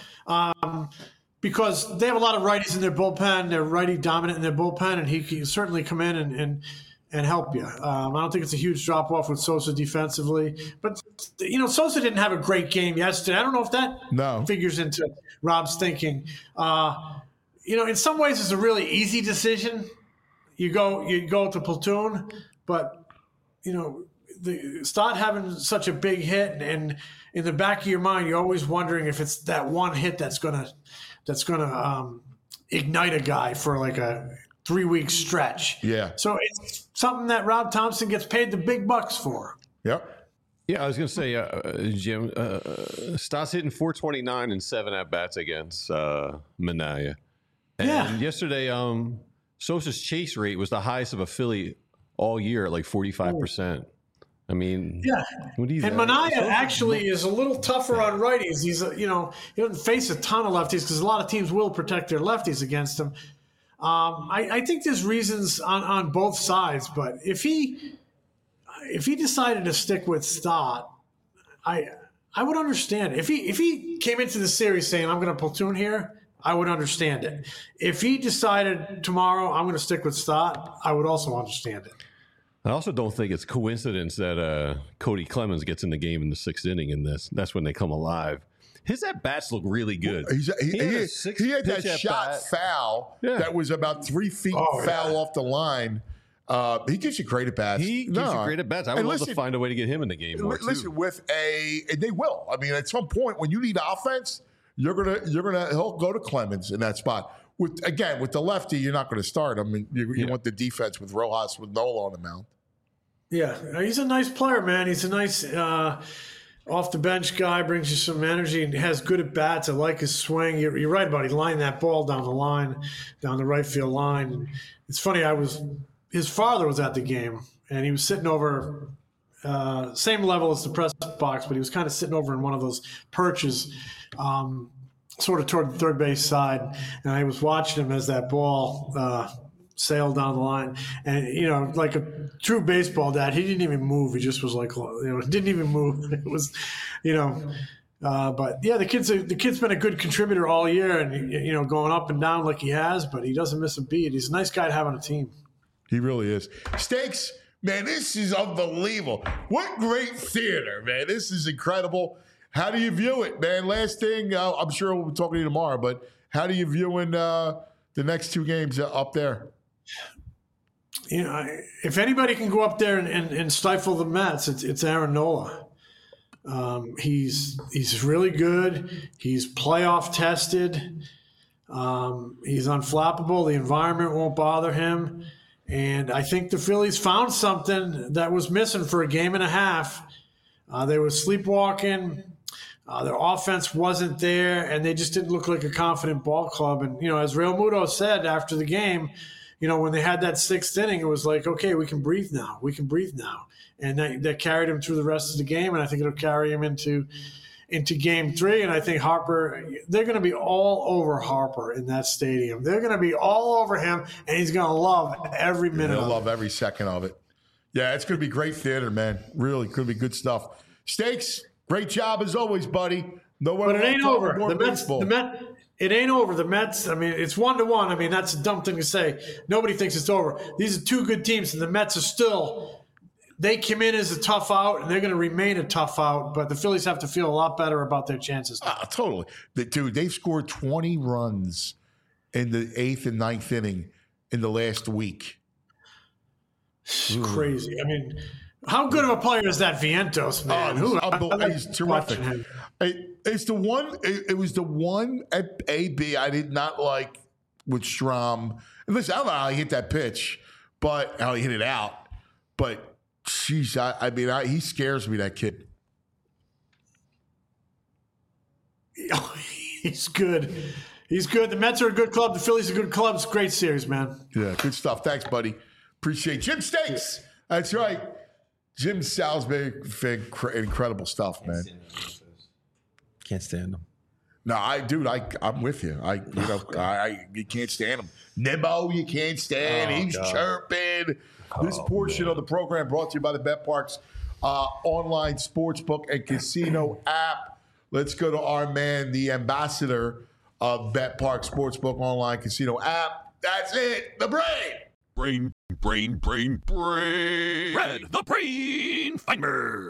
Because they have a lot of righties in their bullpen. They're righty dominant in their bullpen, and he can certainly come in and help you. I don't think it's a huge drop off with Sosa defensively, but Sosa didn't have a great game yesterday. I don't know if that figures into Rob's thinking. In some ways, it's a really easy decision. You go to platoon, but the Stott having such a big hit, and in the back of your mind, you're always wondering if it's that one hit that's gonna ignite a guy for like a 3-week stretch. Yeah. So it's something that Rob Thompson gets paid the big bucks for. Yep. Yeah, I was going to say, Jim, Stott's hitting 429 and 7 at-bats against Minaya. And yesterday, Sosa's chase rate was the highest of a Philly all year at like 45%. I mean, what do you and Minaya actually is a little tougher on righties. He's, he doesn't face a ton of lefties because a lot of teams will protect their lefties against him. I think there's reasons on both sides, but if he decided to stick with Stott, I would understand it. If he came into the series saying, I'm going to platoon here, I would understand it. If he decided tomorrow, I'm going to stick with Stott, I would also understand it. I also don't think it's coincidence that Cody Clemens gets in the game in the 6th inning in this. That's when they come alive. His at-bats look really good. He had that shot foul that was about 3 feet foul off the line. He gives you great at-bats. He gives you great at-bats. I would love to find a way to get him in the game more, listen, too. and they will. I mean, at some point, when you need offense, he'll go to Clemens in that spot. With the lefty, you're not going to start him. You want the defense with Rojas with Nola on the mound. Yeah, he's a nice player, man. He's a nice off the bench guy. Brings you some energy and has good at bats. I like his swing. You're right about he lined that ball down the right field line. It's funny. His father was at the game, and he was sitting over same level as the press box, but he was kind of sitting over in one of those perches. Sort of toward the third base side, and I was watching him as that ball sailed down the line. And like a true baseball dad, he didn't even move. He just was like, didn't even move. It was, but yeah, the kid's been a good contributor all year, and going up and down like he has, but he doesn't miss a beat. He's a nice guy to have on a team. He really is. Stakes, man, this is unbelievable. What great theater, man! This is incredible. How do you view it, man? Last thing, I'm sure we'll be talking to you tomorrow, but how do you view the next 2 games up there? If anybody can go up there and stifle the Mets, it's Aaron Nola. He's really good. He's playoff tested. He's unflappable. The environment won't bother him. And I think the Phillies found something that was missing for a game and a half. They were sleepwalking. Their offense wasn't there, and they just didn't look like a confident ball club. And, as Real Muto said after the game, when they had that 6th inning, it was like, okay, we can breathe now. We can breathe now. And that carried him through the rest of the game, and I think it'll carry him into Game 3. And I think Harper, they're going to be all over Harper in that stadium. They're going to be all over him, and he's going to love every minute of it. He'll love every second of it. Yeah, it's going to be great theater, man. Really could be good stuff. Stakes, great job as always, buddy. But it ain't over. It ain't over. The Mets, I mean, it's 1-1. I mean, that's a dumb thing to say. Nobody thinks it's over. These are 2 good teams, and the Mets are still, they come in as a tough out, and they're going to remain a tough out, but the Phillies have to feel a lot better about their chances. Totally. Dude, they've scored 20 runs in the 8th and 9th inning in the last week. It's crazy. I mean, how good of a player is that Vientos, man? He's terrific. It's the one. It was the one at AB I did not like with Strom. And listen, I don't know how he hit that pitch, but how he hit it out. But Jeez, I mean, he scares me, that kid. He's good. He's good. The Mets are a good club. The Phillies are a good club. It's a great series, man. Yeah, good stuff. Thanks, buddy. Appreciate it. Jim Stakes. That's right. Jim Salisbury, incredible stuff, man. Can't stand them. No, I'm with you. You can't stand him. Nimmo, you can't stand. He's chirping. This portion of the program brought to you by the BetParx online sportsbook and casino app. Let's go to our man, the ambassador of BetParx Sportsbook online casino app. That's it. The brain. Brain. Red, the brain finder.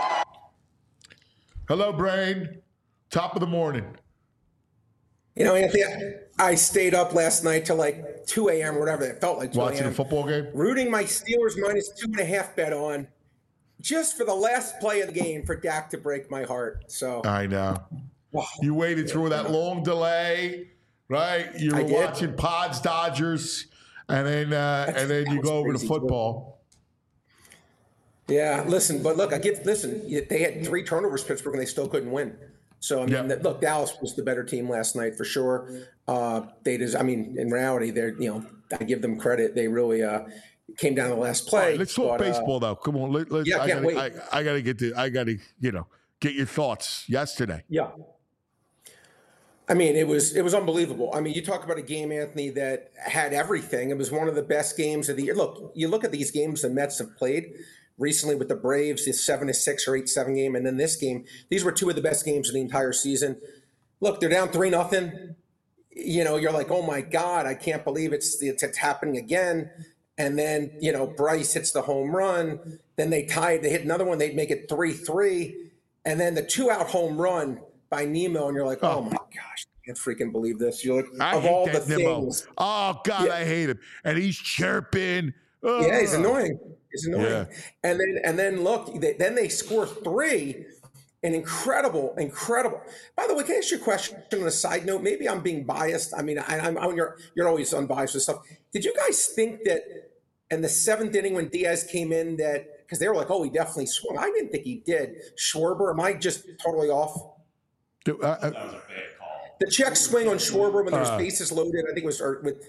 Hello, brain. Top of the morning. You know, Anthony, I stayed up last night till like 2 a.m. or whatever. It felt like 2 a.m. Watching a football game? Rooting my Steelers -2.5 bet on just for the last play of the game for Dak to break my heart. So I know. You waited through that long delay, right? You were watching Pods Dodgers, and then you go over to football. Yeah, listen, but look, they had 3 turnovers, Pittsburgh, and they still couldn't win. So, I mean, look, Dallas was the better team last night for sure. In reality, I give them credit. They really came down to the last play. Right, let's talk baseball, though. Come on. I can't wait. I got to get your thoughts yesterday. Yeah. I mean, it was unbelievable. I mean, you talk about a game, Anthony, that had everything. It was one of the best games of the year. Look, you look at these games the Mets have played recently with the Braves, this 7-6 or 8-7 game, and then this game. These were 2 of the best games of the entire season. Look, they're down 3-0. You know, you're like, oh my God, I can't believe it's happening again. And then, Bryce hits the home run. Then they tied. They hit another one. They'd make it 3-3. And then the 2-out home run by Nemo, and you're like, oh my gosh, I can't freaking believe this. You're like, of all the things. Oh God, I hate him. And he's chirping. Yeah, he's annoying. Yeah. And then look, then they score 3. And incredible. By the way, can I ask you a question on a side note? Maybe I'm being biased. I mean, you're always unbiased with stuff. Did you guys think that in the 7th inning when Diaz came in because they were like, oh, he definitely swung. I didn't think he did. Schwarber, am I just totally off? That was a bad call. The check swing on Schwarber when there was bases loaded, I think it was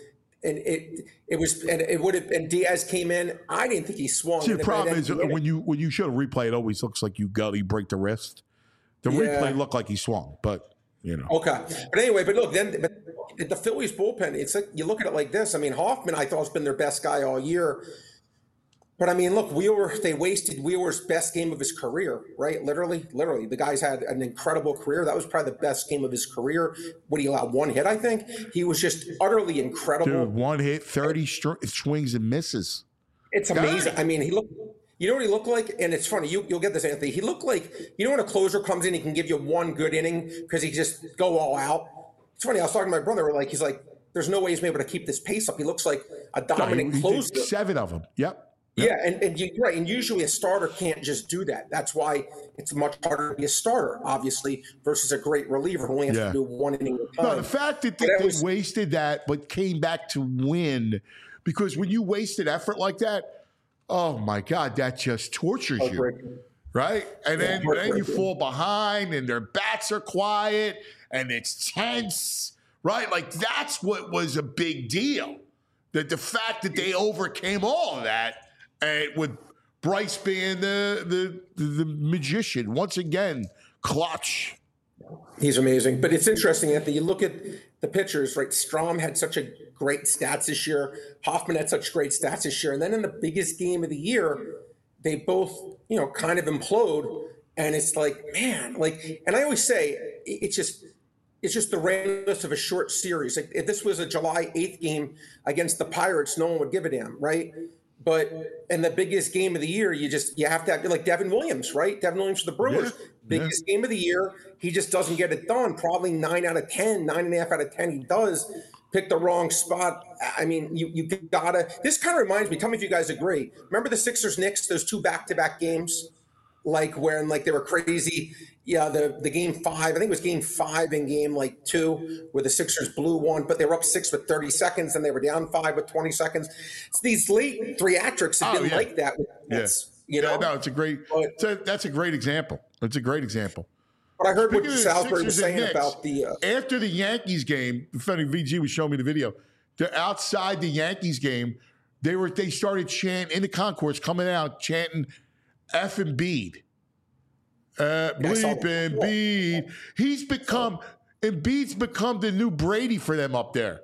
it would have, and Diaz came in. I didn't think he swung. See, the problem is when you show a replay, it always looks like you break the wrist. The replay looked like he swung, but Okay, but anyway, but look, but the Phillies bullpen. It's like you look at it like this. I mean, Hoffman, I thought has been their best guy all year. But I mean, look, they wasted Wheeler's best game of his career, right? Literally. The guy's had an incredible career. That was probably the best game of his career. Would he allow 1 hit, I think? He was just utterly incredible. Dude, 1 hit, 30 swings and misses. It's amazing. I mean, you know what he looked like? And it's funny, you'll get this, Anthony. He looked like, when a closer comes in, he can give you 1 good inning because he just go all out. It's funny, I was talking to my brother, he's like, there's no way he's able to keep this pace up. He looks like a dominant closer. Did 7 of them. Yep. Yeah, and you're right. And usually a starter can't just do that. That's why it's much harder to be a starter, obviously, versus a great reliever who only has to do 1 inning at a time. No, the fact that they wasted that but came back to win, because when you wasted effort like that, oh my God, that just tortures you. Right? And then you fall behind and their bats are quiet and it's tense, right? Like that's what was a big deal. That the fact that they overcame all of that, and with Bryce being the magician once again, clutch. He's amazing. But it's interesting, Anthony. You look at the pitchers, right? Strom had such a great stats this year. Hoffman had such great stats this year. And then in the biggest game of the year, they both, kind of implode. And it's like, man, and I always say it's just the randomness of a short series. Like if this was a July 8th game against the Pirates, no one would give a damn, right? But in the biggest game of the year, you have to have like Devin Williams, right? Devin Williams for the Brewers. Biggest game of the year, he just doesn't get it done. Probably 9 out of 10, 9.5 out of 10 he does. Pick the wrong spot. I mean, you gotta. This kind of reminds me. Tell me if you guys agree. Remember the Sixers-Knicks, those 2 back-to-back games, when they were crazy. Yeah, the game 5. I think it was game 5 and game 2, where the Sixers blew 1, but they were up 6 with 30 seconds, and they were down 5 with 20 seconds. So these late theatrics have been like that with Nets. You know, no, it's a great. That's a great example. It's a great example. But I heard Speaking what of Salisbury was Sixers and saying Knicks, about the. After the Yankees game, funny VG was showing me the video. Outside the Yankees game, they started chanting in the concourse, coming out chanting "F and Embiid." Bleep Embiid. Embiid's become the new Brady for them up there.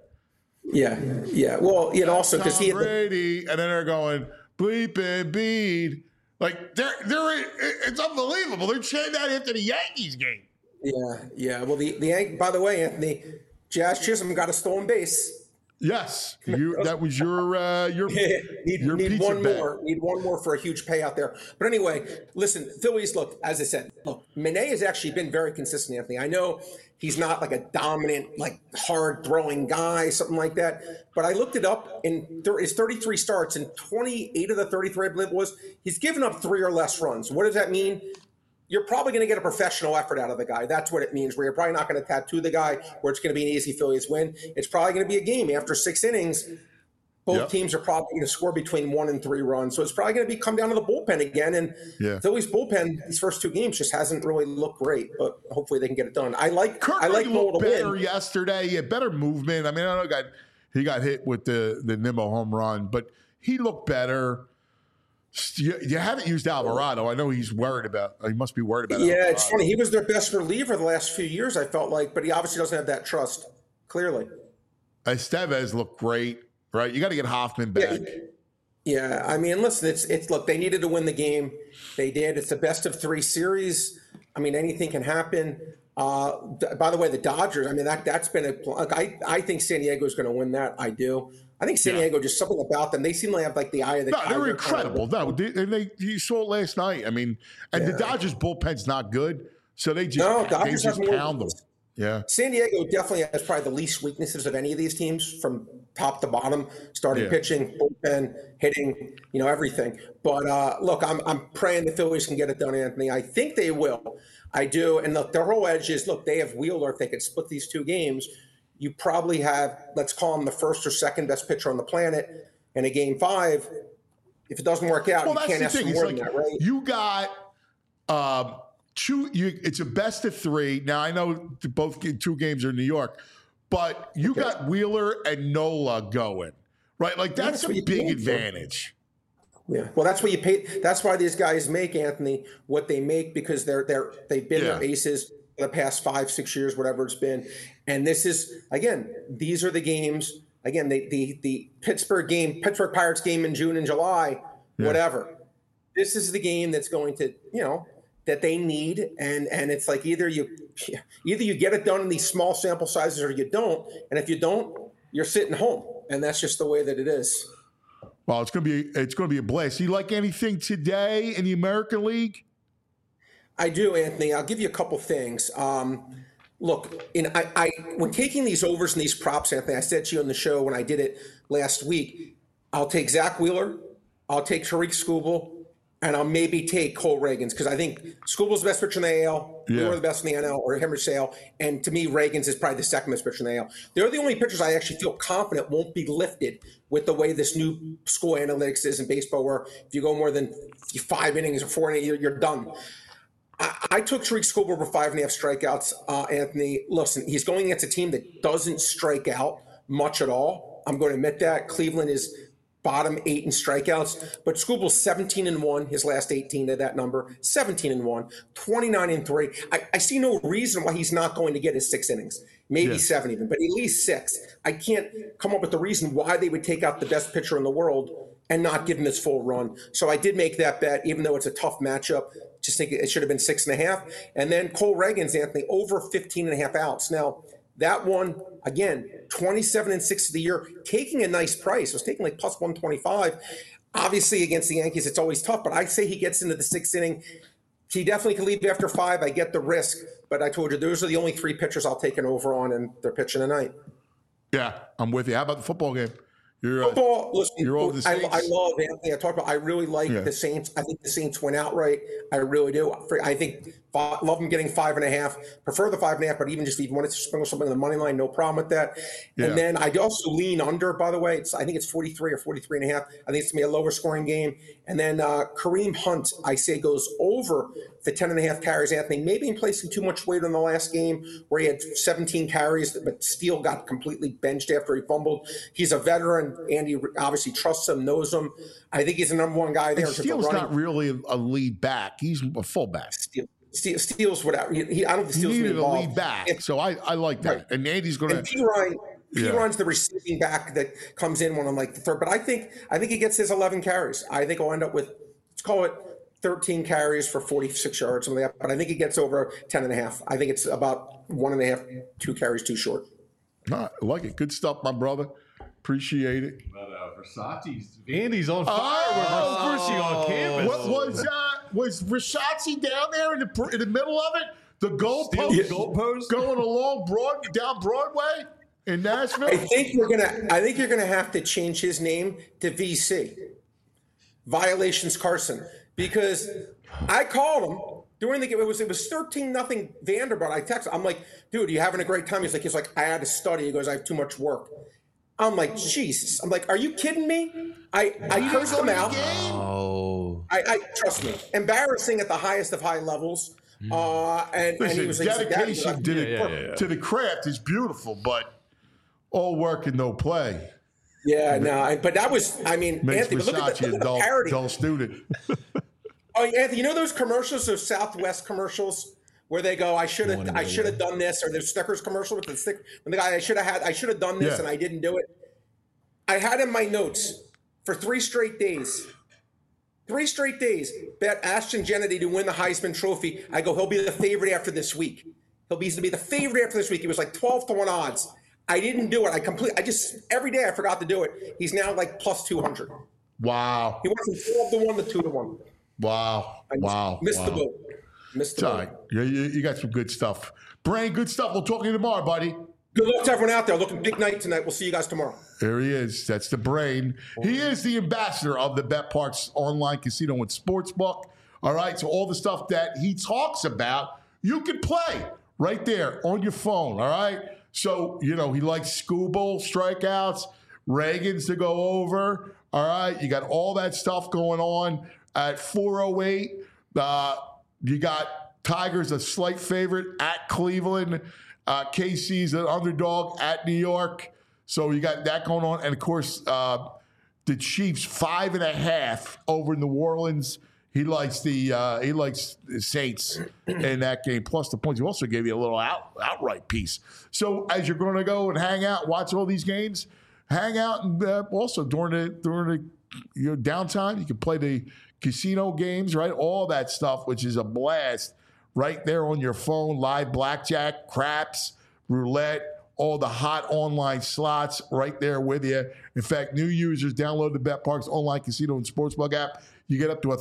Yeah. Well, also because he had Brady, and then they're going bleep Embiid. Like it's unbelievable. They're chanting that after the Yankees game. Yeah. Well, the by the way, Anthony, Jazz Chisholm got a stolen base. Yes, that was your need pizza one bet. more. Need one more for a huge payout there. But anyway, listen, Phillies. Look, as I said, Manet has actually been very consistent, Anthony. I know he's not like a dominant, like hard throwing guy, something like that. But I looked it up, and his 33 starts, and 28 of the 33, I believe it was, he's given up 3 or less runs. What does that mean? You're probably going to get a professional effort out of the guy. That's what it means, where you're probably not going to tattoo the guy where it's going to be an easy Phillies win. It's probably going to be a game. After 6 innings, both teams are probably going to score between 1 and 3 runs. So it's probably going to come down to the bullpen again. And Phillies bullpen, these first 2 games just hasn't really looked great, but hopefully they can get it done. I like Noel to better win. Yesterday. He had better movement. I mean, I know he got hit with the Nimmo home run, but he looked better. You haven't used Alvarado. I know he must be worried about Alvarado. It's funny. He was their best reliever the last few years, I felt like, but he obviously doesn't have that trust, clearly. Estevez looked great, right? You got to get Hoffman back. Yeah, I mean, listen, it's look, they needed to win the game. They did. It's a best of 3 series. I mean, anything can happen. By the way, the Dodgers, I mean, that's been I think San Diego is going to win that. I do. I think San Diego, just something about them. They seem to have like the eye of the tiger. They're incredible. You saw it last night. I mean, and the Dodgers bullpen's not good, so they just pound them. Yeah. San Diego definitely has probably the least weaknesses of any of these teams from top to bottom, starting pitching, bullpen, hitting, everything. But look, I'm praying the Phillies can get it done, Anthony. I think they will. I do. And look, their whole edge is, look, they have Wheeler. If they could split these 2 games, you probably have, let's call him the first or second best pitcher on the planet. And in Game 5, if it doesn't work out, you can't ask for more than that, right? You got it's a best of 3. Now, I know 2 games are in New York, but you got Wheeler and Nola going, right? Like, that's a big advantage. Yeah, well, that's what you pay. That's why these guys make, Anthony, what they make, because they've been their aces for the past 5-6 years, whatever it's been. And this is, again, these are the games. Again, the Pittsburgh Pirates game in June and July, whatever. This is the game that's going to, that they need, and it's like either you get it done in these small sample sizes or you don't. And if you don't, you're sitting home, and that's just the way that it is. Well, it's going to be a blast. Do you like anything today in the American League? I do, Anthony. I'll give you a couple things. Look, when taking these overs and these props, Anthony, I said to you on the show when I did it last week, I'll take Zach Wheeler, I'll take Tariq Skubal, and I'll maybe take Cole Reagans, because I think Skubal's the best pitcher in the AL, Wheeler the best in the NL, or Henry Sale, and to me, Reagans is probably the second best pitcher in the AL. They're the only pitchers I actually feel confident won't be lifted with the way this new score analytics is in baseball, where if you go more than 5 innings or 4 innings, you're done. I took Tariq Skubal over 5.5 strikeouts, Anthony. Listen, he's going against a team that doesn't strike out much at all. I'm going to admit that. Cleveland is bottom 8 in strikeouts, but Skubal's 17-1, his last 18 to that number, 17-1, 29-3. I see no reason why he's not going to get his 6 innings, maybe 7 even, but at least 6. I can't come up with the reason why they would take out the best pitcher in the world and not give him his full run. So I did make that bet, even though it's a tough matchup. Just think it should have been 6.5. And then Cole Reagans, Anthony, over 15.5 outs. Now, that one, again, 27-6 of the year, taking a nice price. It was taking like plus 125. Obviously, against the Yankees, it's always tough, but I say he gets into the 6th inning. He definitely can leave after 5. I get the risk, but I told you, those are the only 3 pitchers I'll take an over on, and they're pitching tonight. Yeah, I'm with you. How about the football game? Football, listen, you're over the Saints? I love Anthony. I talked about. I really like the Saints. I think the Saints went outright. I really do. I think Love them getting 5.5. Prefer the 5.5, but even wanted to sprinkle something on the money line, no problem with that. Yeah. And then I also lean under, by the way. I think it's 43 or 43.5. I think it's going to be a lower scoring game. And then Kareem Hunt, I say, goes over the 10.5 carries. Anthony, maybe in placing too much weight on the last game where he had 17 carries, but Steele got completely benched after he fumbled. He's a veteran. Andy obviously trusts him, knows him. I think he's the number one guy there. Steele's not really a lead back. He's a fullback. Steele's without. I don't think Steele's needed a involved. lead back, so I like that. Right. And Andy's going to. And Piron's the receiving back that comes in when I'm like the third. But I think he gets his 11 carries. I think he'll end up with, let's call it 13 carries for 46 yards, something like that. But I think he gets over 10.5. I think it's about 1.5, 2 carries too short. I like it. Good stuff, my brother. Appreciate it. But Versace's Andy's on fire with Versace on campus. What was Versace down there in the middle of it? The goalpost going along down Broadway in Nashville. I think you're gonna have to change his name to VC, Violations Carson, because I called him during the game. It was 13-0 Vanderbilt. I texted. I'm like, dude, are you having a great time? He's like, I had to study. He goes, I have too much work. I'm like, Jesus. I'm like, are you kidding me? I cursed him out. Oh. I trust me. Embarrassing at the highest of high levels. And he was dedication to the craft is beautiful, but all work and no play. Yeah, no, but that was, I mean, makes Anthony, Versace look at the parody. Dull student. Oh, Anthony, you know those commercials, those Southwest commercials, where they go, I should have done this, or the Snickers commercial with the stick when the guy I should have done this and I didn't do it. I had in my notes for 3 straight days. 3 straight days, bet Ashton Kennedy to win the Heisman Trophy. I go, he'll be the favorite after this week. He'll be the favorite after this week. He was like 12-1 odds. I didn't do it. Every day I forgot to do it. He's now like plus 200. Wow. He went from 12-1 to 2-1. Wow. Missed the boat. Missed the boat. You got some good stuff. Brain, good stuff. We'll talk to you tomorrow, buddy. Good luck to everyone out there. Looking big night tonight. We'll see you guys tomorrow. There he is. That's the Brain. He is the ambassador of the BetParx online casino and sportsbook. All right. So all the stuff that he talks about, you can play right there on your phone. All right. So, he likes Scooble strikeouts, Reagan's to go over. All right. You got all that stuff going on at 408. You got Tigers a slight favorite at Cleveland. KC's an underdog at New York. So you got that going on. And, of course, the Chiefs 5.5 over New Orleans. He likes the Saints in that game, plus the points. He also gave you a little outright piece. So as you're going to go and hang out, watch all these games, hang out, and also during the downtime, you can play the casino games, right? All that stuff, which is a blast, right there on your phone. Live blackjack, craps, roulette, all the hot online slots right there with you. In fact, new users download the BetParx online casino and sportsbook app. You get up to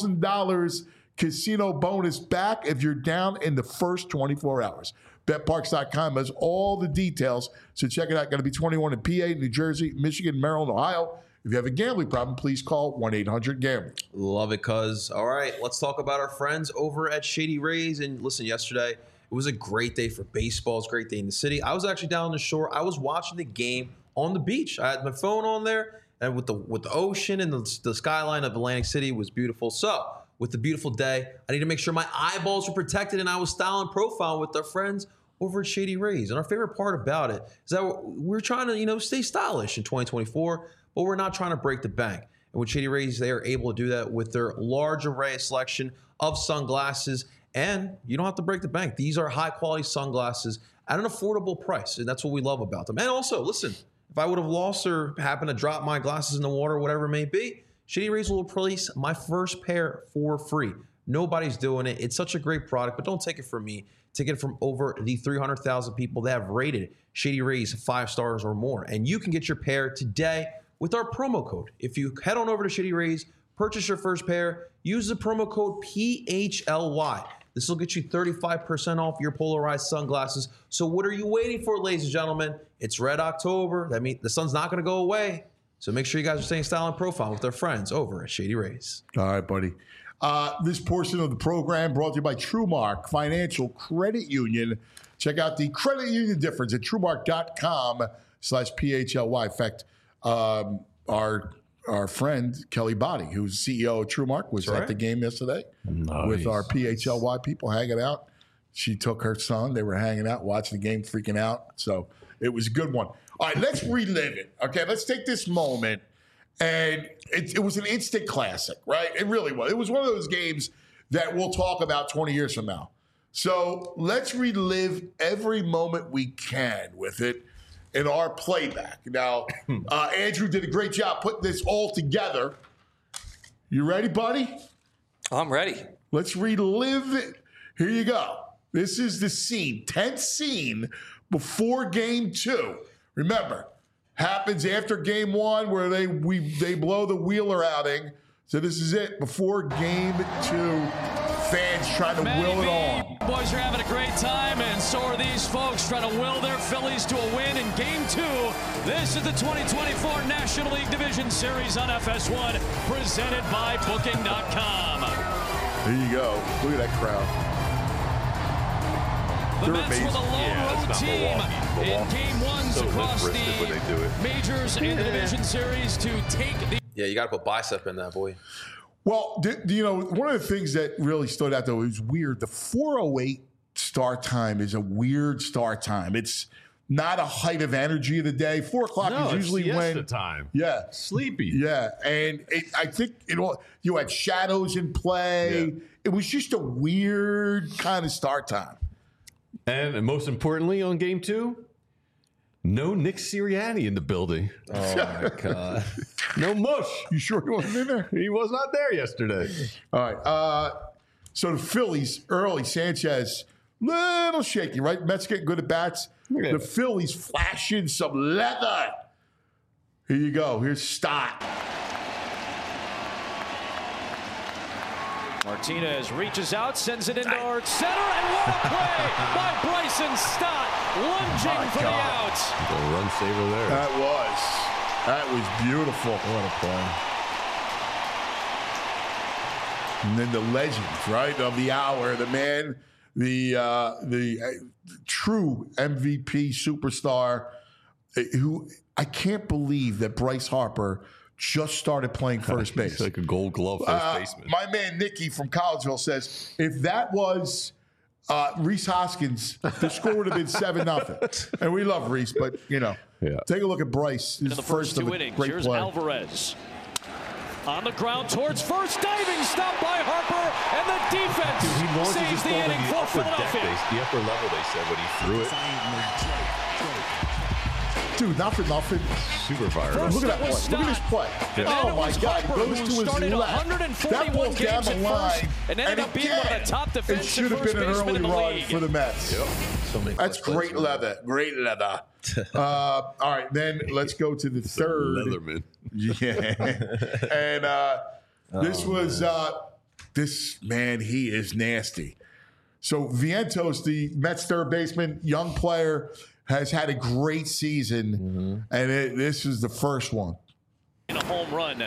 $1,000 casino bonus back if you're down in the first 24 hours. BetParx.com has all the details, so check it out. Going to be 21 in PA, New Jersey, Michigan, Maryland, Ohio. If you have a gambling problem, please call 1-800-GAMBLER. Love it, cuz. All right, let's talk about our friends over at Shady Rays. And listen, yesterday, it was a great day for baseball. It's a great day in the city. I was actually down on the shore. I was watching the game on the beach. I had my phone on there, and with the ocean and the skyline of Atlantic City was beautiful. So, with the beautiful day, I need to make sure my eyeballs were protected, and I was styling profile with our friends over at Shady Rays. And our favorite part about it is that we're trying to, stay stylish in 2024, but we're not trying to break the bank. And with Shady Rays, they are able to do that with their large array of selection of sunglasses. And you don't have to break the bank. These are high-quality sunglasses at an affordable price, and that's what we love about them. And also, listen, if I would have lost or happened to drop my glasses in the water, whatever it may be, Shady Rays will release my first pair for free. Nobody's doing it. It's such a great product, but don't take it from me. Take it from over the 300,000 people that have rated Shady Rays 5 stars or more. And you can get your pair today with our promo code. If you head on over to Shady Rays, purchase your first pair, use the promo code PHLY. This will get you 35% off your polarized sunglasses. So what are you waiting for, ladies and gentlemen? It's Red October. That means the sun's not going to go away. So make sure you guys are staying style and profile with our friends over at Shady Rays. All right, buddy. This portion of the program brought to you by TrueMark Financial Credit Union. Check out the credit union difference at TrueMark.com/PHLY. In fact, our friend Kelly Body, who's CEO of TrueMark, was at the game yesterday with our PHLY people hanging out. She took her son. They were hanging out, watching the game, freaking out. So it was a good one. All right, let's relive it. Okay, let's take this moment. And it was an instant classic, right? It really was. It was one of those games that we'll talk about 20 years from now. So let's relive every moment we can with it in our playback. Now, Andrew did a great job putting this all together. You ready, buddy? I'm ready. Let's relive it. Here you go. This is the scene, 10th scene before game 2. Remember, happens after game 1 where they blow the Wheeler outing. So this is it before game 2. Fans trying to will it on. Boys are having a great time, and so are these folks trying to will their Phillies to a win in game 2. This is the 2024 National League Division Series on FS1, presented by Booking.com. There you go. Look at that crowd. The Mets were the lone road team in game 1s across the majors and the division series to take the. Yeah, you got to put bicep in that, boy. Well, one of the things that really stood out, though, is weird. The 4:08 start time is a weird start time. It's not a height of energy of the day. 4 o'clock is usually when time. Yeah, sleepy. Yeah, and I think you had shadows in play. Yeah. It was just a weird kind of start time. And most importantly, on game 2, no Nick Sirianni in the building. Oh, my God. No mush. You sure he wasn't in there? He was not there yesterday. All right. So the Phillies, early, Sanchez, little shaky, right? Mets getting good at bats. Yeah. The Phillies flashing some leather. Here you go. Here's Stott. Martinez reaches out, sends it into our center, and what a play by Bryson Stott, lunging for the out. The run saver there. That was beautiful. What a play. And then the legend, right, of the hour, the man, the true MVP superstar, who I can't believe that Bryce Harper just started playing first base. He's like a Gold Glove first baseman. My man Nicky from Collegeville says if that was Rhys Hoskins, the score would have been 7-0. And we love Rhys, but take a look at Bryce. In the first 2 innings, here's play. Alvarez on the ground towards first, diving stop by Harper, and the defense saves the inning for Philadelphia. The upper level, they said, when he threw it. Dude, not for nothing. Super fired. Look at that play. Look at this play. Yeah. Oh, my God. He goes to his left. That ball's down the line. And ended up being one of the top it defensive should have been an early run for the Mets. Yep. That's great leather. Great leather. All right, then let's go to the third. Leatherman. Yeah. And this man, he is nasty. So Vientos, the Mets third baseman, young player, has had a great season, and this is the first one. In a home run.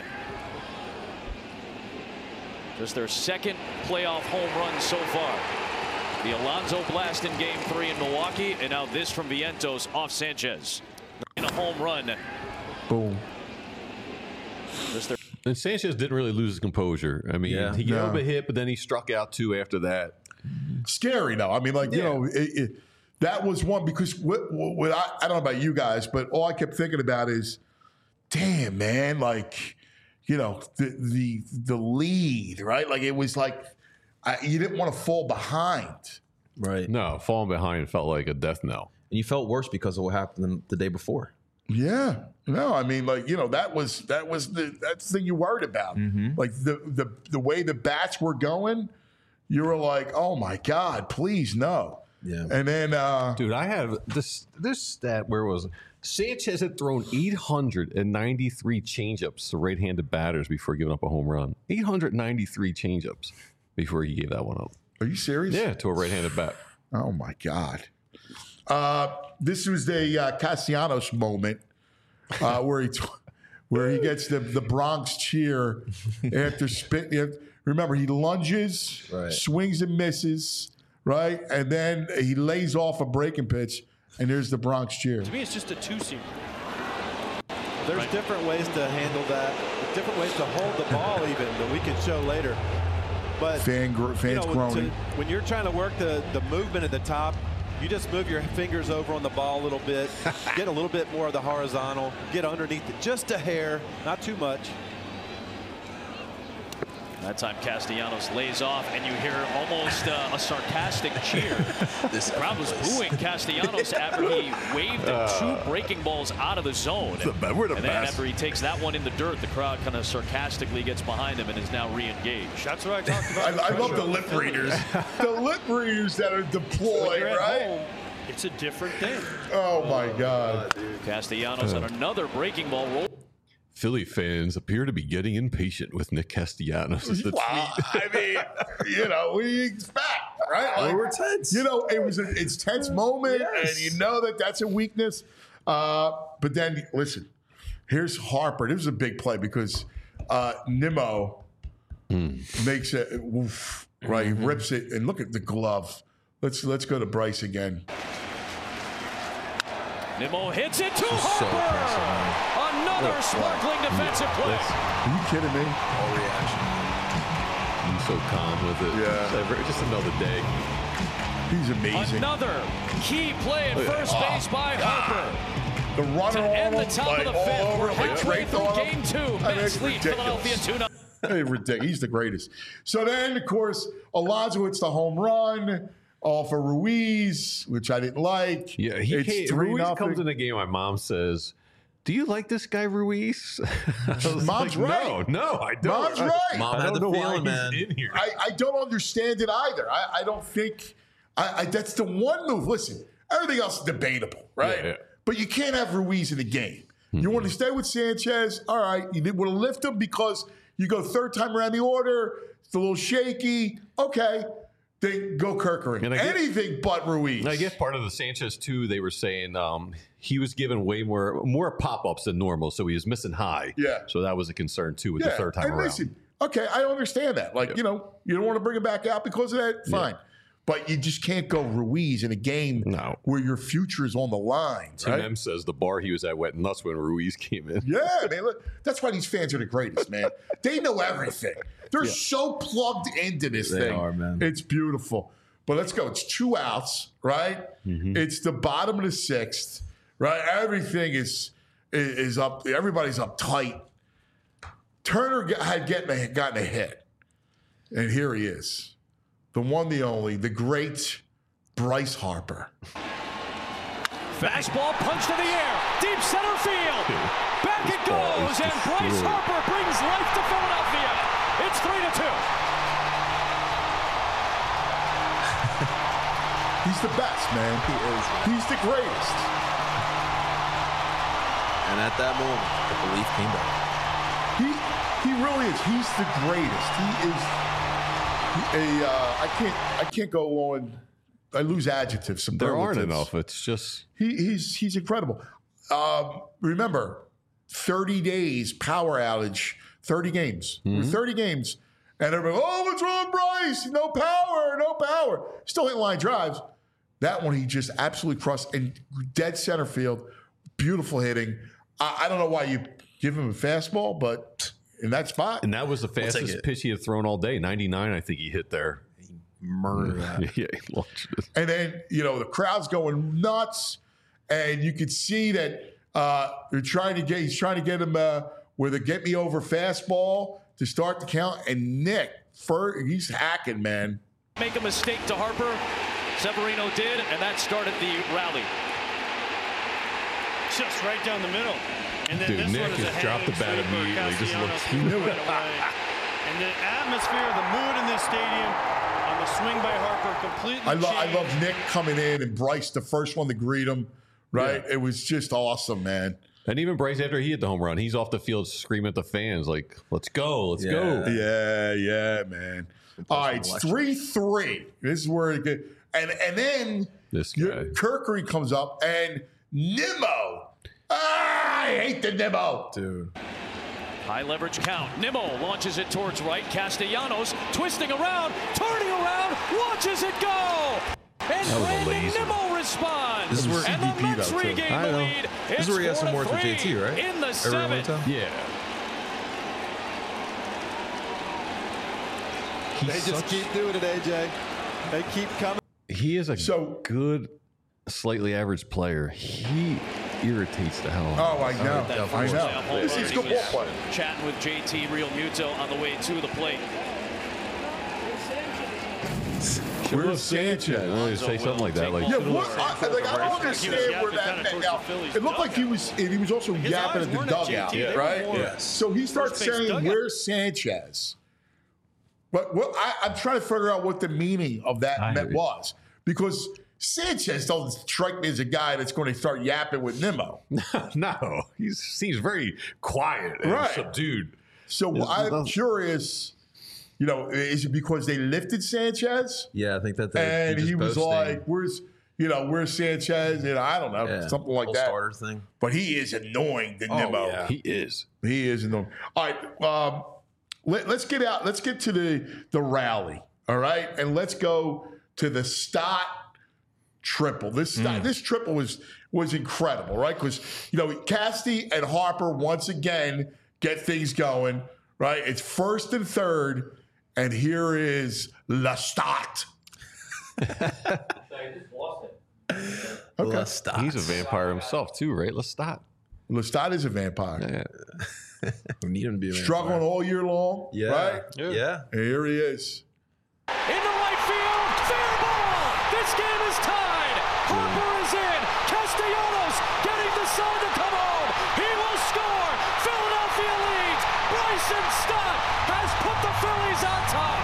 Just their second playoff home run so far. The Alonso blast in game 3 in Milwaukee, and now this from Vientos off Sanchez. In a home run. Boom. And Sanchez didn't really lose his composure. I mean, he gave up a hit, but then he struck out 2 after that. Scary, though. I mean, that was one because I don't know about you guys, but all I kept thinking about is, damn, man, the lead, right? Like it was like you didn't want to fall behind. Right. No, falling behind felt like a death knell. And you felt worse because of what happened the day before. Yeah. No, I mean, that's the thing you worried about. Like the way the bats were going, you were like, oh my God, please no. Yeah. And then dude, I have this stat. Where was it? Sanchez had thrown 893 changeups to right-handed batters before giving up a home run. 893 changeups before he gave that one up. Are you serious? Yeah, to a right-handed bat. Oh my God. This was the Castellanos moment where he gets the Bronx cheer after spitting. remember, he lunges, Right. swings and misses, right? And then he lays off a breaking pitch, and there's the Bronx cheer. To me, it's just a two-seamer. There's different ways to handle that, different ways to hold the ball even that we can show later. But Fans groaning. when you're trying to work the movement at the top, you just move your fingers over on the ball a little bit, get a little bit more of the horizontal, get underneath it just a hair, not too much. That time Castellanos lays off, and you hear almost a sarcastic cheer. The crowd was booing Castellanos after he waved two breaking balls out of the zone. We're the And then best. after he takes that one in the dirt, the crowd kind of sarcastically gets behind him and is now re-engaged. That's what I talked about. I love the lip readers. The lip readers that are When deployed, you're at right? home, it's a different thing. Oh, my God. Castellanos on another breaking ball roll. Philly fans appear to be getting impatient with Nick Castellanos as the Wow. I mean, what do you expect, right? Like, We're tense. It's tense moment, and you know that's a weakness. But then, listen, here's Harper. This is a big play because Nimmo makes it, oof, right? He rips it, and look at the glove. Let's go to Bryce again. Nimmo hits it to So Harper. impressive, Another sparkling defensive play. Are you kidding me? All reaction. He's so calm with it. Yeah. Just another day. He's amazing. Another key play at first base by Harper. The runner To end the on him, top like, of the all fifth. over We're him, like halfway draped through on him. game two. I mean, Mets it's lead ridiculous. Philadelphia 2-0. Hey, ridiculous. He's the greatest. So then, of course, Alonso hits the home run off of Ruiz, which I didn't like. Yeah, It's Ruiz 3-0. comes in the game. My mom says, "Do you like this guy, Ruiz?" I was Mom's like, right. No, I don't. Mom's right. Mom I had don't the know why feeling, man. he's in here. I don't understand it either. I don't think that's the one move. Listen, everything else is debatable, right? Yeah. But you can't have Ruiz in the game. You want to stay with Sanchez? All right. You didn't want to lift him because you go third time around the order. It's a little shaky. Okay. They go Kerkering. And I guess- Anything but Ruiz. I guess part of the Sanchez too, they were saying he was given way more pop-ups than normal, so he was missing high. Yeah. So that was a concern too with the third time and around. listen, okay, I understand that. Like, you don't want to bring him back out because of that. Fine. But you just can't go Ruiz in a game where your future is on the line. Tim Right? M says the bar he was at went nuts when Ruiz came in. Yeah, man. Look, that's why these fans are the greatest, man. They know everything. They're so plugged into this thing. are, man. It's beautiful. But let's go. It's 2 outs, right? It's the bottom of the 6th, right? Everything is up. Everybody's up tight. Turner had gotten a hit, and here he is, the one, the only, the great Bryce Harper. Fastball punched to the air. Deep center field. Back it goes. And Bryce Harper brings life to Philadelphia. It's 3-2. He's the best, man. He is. He's the greatest. And at that moment, the belief came back. He really is. He's the greatest. He is I can't go on. I lose adjectives. There aren't superlatives. enough. It's just He's incredible. Remember, 30 days power outage, 30 games, 30 games, and everybody, oh, what's wrong with Bryce? No power, no power. Still hitting line drives. That one he just absolutely crushed in dead center field. Beautiful hitting. I don't know why you give him a fastball, but in that spot, and that was the take fastest it. pitch he had thrown all day. 99, I think he hit there. Murder that. Yeah, he launched it. and then the crowd's going nuts, and you could see that he's trying to get him with a get me over fastball to start the count. And Nick, he's hacking, man. Make a mistake to Harper. Severino did, and that started the rally. Just right down the middle. And then Dude, this Nick one is a has dropped the bat hanging sweeper. immediately. Just Castellanos looks- threw it right away. And the atmosphere, the mood in this stadium on the swing by Harper completely I changed. love Nick coming in and Bryce, the first one to greet him. Right? Yeah. It was just awesome, man. And even Bryce, after he hit the home run, he's off the field screaming at the fans like, "Let's go, let's go!" Yeah, man. All right, it's 3-3. This is where it gets. And then This guy. Kerkery comes up and Nimmo. I hate the Nimmo. Dude. High leverage count. Nimmo launches it towards right. Castellanos twisting around, turning around, watches it go. And Brandon Nimmo responds. This is where and the Mets regain the lead. This is where he has some words with JT, right? In the seventh. Yeah. They just keep doing it, AJ. They keep coming. He is a good, slightly average player. He irritates the hell out of me. Oh, I know. I know. He's a good ball player. Chatting with JT Realmuto on the way to the plate. Where's Sanchez? I wanted to say something like that. Like, Yeah, I don't understand where that meant. Now, it looked like he was also yapping at the dugout, right? Yes. So he starts saying, "Where's Sanchez?" But I'm trying to figure out what the meaning of that was, because Sanchez doesn't strike me as a guy that's going to start yapping with Nimmo. No, he seems very quiet and subdued. So I'm curious. You know, is it because they lifted Sanchez? Yeah, I think that. And he was like, "Where's Sanchez?" And I don't know, something like that. Starter thing. But he is annoying to Nimmo. Yeah, he is. He is annoying. All right, let's get out. Let's get to the rally. All right, and let's go to the Stott triple. This triple was incredible, right? Because Casty and Harper once again get things going. Right, it's first and third. And here is Lestat. Okay. He's a vampire himself, too, right? Lestat. Lestat is a vampire. Yeah. We need him to be a vampire. Struggling all year long, right? Yeah. And here he is. In the right field, fair ball. This game is tied. Harper is in. Castellanos getting the sign to come home. He will score. Philadelphia leads. Bryson Stott has put the Phillies on top.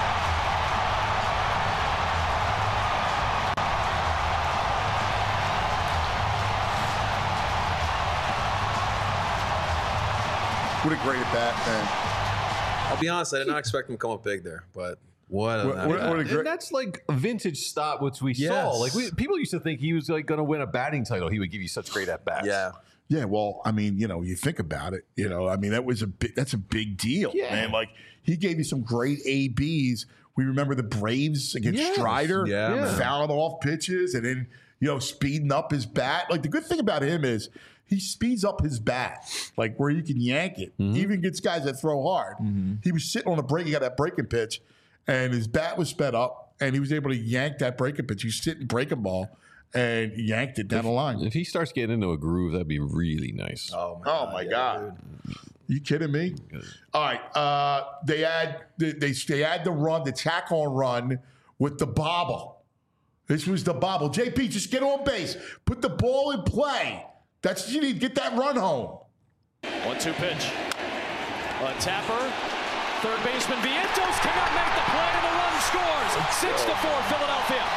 What a great at bat, man. I'll be honest, I did not expect him to come up big there, but what a And that's like a vintage Stott, which we saw. Like people used to think he was like going to win a batting title. He would give you such great at bats. Yeah. Yeah, well, I mean, you think about it, I mean, that's a big deal, man. Like, he gave you some great ABs. We remember the Braves against Strider, fouling off pitches and then, speeding up his bat. Like, the good thing about him is he speeds up his bat, like where you can yank it. He even gets guys that throw hard. He was sitting on a break, he got that breaking pitch, and his bat was sped up, and he was able to yank that breaking pitch. He was sitting breaking ball. And yanked it down the line. If he starts getting into a groove, that'd be really nice. Oh my God! You kidding me? All right, they add the run, the tack on run with the bobble. This was the bobble. JP, just get on base, put the ball in play. That's what you need. Get that run home. 1-2 pitch. A tapper. Third baseman Vientos cannot make the play, and the run scores. 6-4 Philadelphia.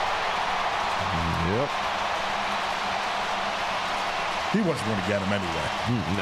Yep. He wasn't going to get him anyway. No.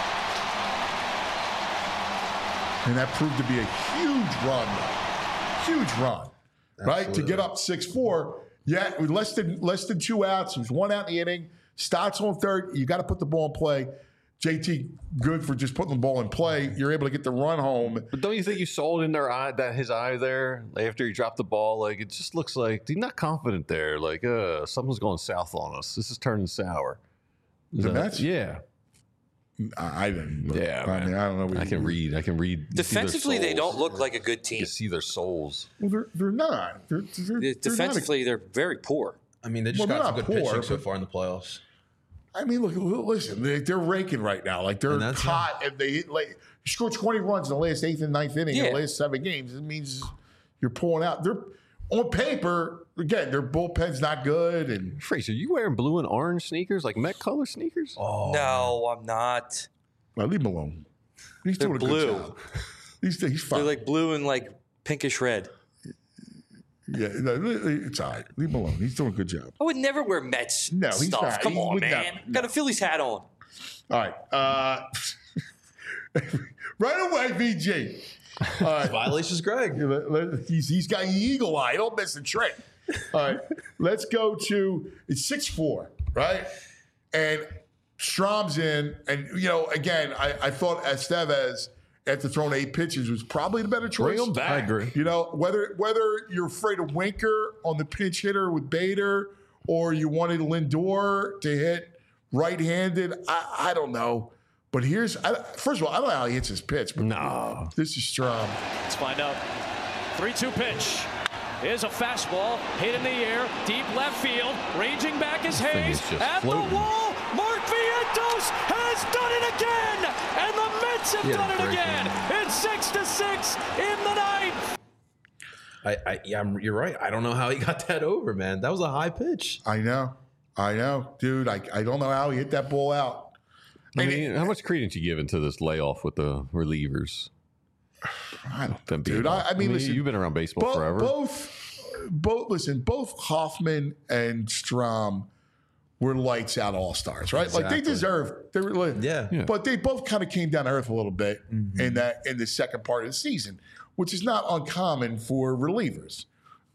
And that proved to be a huge run. Huge run. Absolutely. Right? To get up 6-4. Yeah, with less than 2 outs. It was 1 out in the inning. Stott's on third. You got to put the ball in play. JT, good for just putting the ball in play. You're able to get the run home. But don't you think you saw it in their eye, his eye there, after he dropped the ball? Like, it just looks like he's not confident there. Like, something's going south on us. This is turning sour. The Mets? Yeah. I didn't. Yeah, I mean, I don't know. I can read. Defensively, they don't look like a good team. You see their souls. Well, they're not. Defensively, they're very poor. I mean, they just got some good pitching so far in the playoffs. I mean, look, listen, they're raking right now. Like, they're hot, and they score 20 runs in the last 8th and 9th inning in the last 7 games. It means you're pulling out. They're on paper, again, their bullpen's not good. And Fraser, you wearing blue and orange sneakers, like Met color sneakers? Oh no, I'm not. Well, leave him alone. He's doing a good job. He's fine. They're like blue and like pinkish red. Yeah, it's all right. Leave him alone. He's doing a good job. I would never wear Mets stuff. Not. Come on, man. Got a Phillies hat on. All right. Right away, VG. All right. Violations, Greg. He's got eagle eye. Don't miss the trick. All right. Let's go to, it's 6-4, right? And Strom's in, and again, I thought Estevez, after throwing 8 pitches, was probably the better choice. Bring him back. I agree. Whether you're afraid of Winker on the pinch hitter with Bader, or you wanted Lindor to hit right-handed, I don't know. But first of all, I don't know how he hits his pitch. But No. This is Strom. Let's find out. 3-2 pitch. Here's a fastball hit in the air, deep left field. Raging back is Hayes is just at floating. the wall. Mark Vientos has done it again, and the Mets have done it again. It's 6-6 in the ninth. You're right. I don't know how he got that over, man. That was a high pitch. I know, dude. I don't know how he hit that ball out. I mean, how much credence you giving to this layoff with the relievers? I don't, dude. I mean, listen, you've been around baseball forever. Both Hoffman and Strom were lights out all stars, right? Exactly. Like they deserved. They were, yeah. But they both kind of came down to earth a little bit in the second part of the season, which is not uncommon for relievers.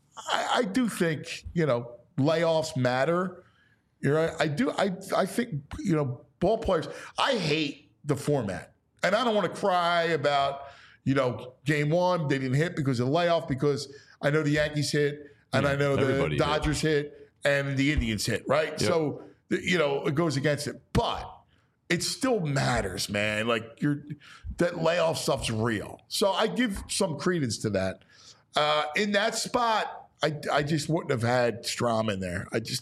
I do think layoffs matter. You're right. I do. I think ball players. I hate the format, and I don't want to cry about game 1 they didn't hit because of the layoff, because I know the Yankees hit and I know the Dodgers hit and the Indians hit, right? Yep. So it goes against it, but it still matters, man. Like that layoff stuff's real, so I give some credence to that. In that spot, I just wouldn't have had Strom in there. I just.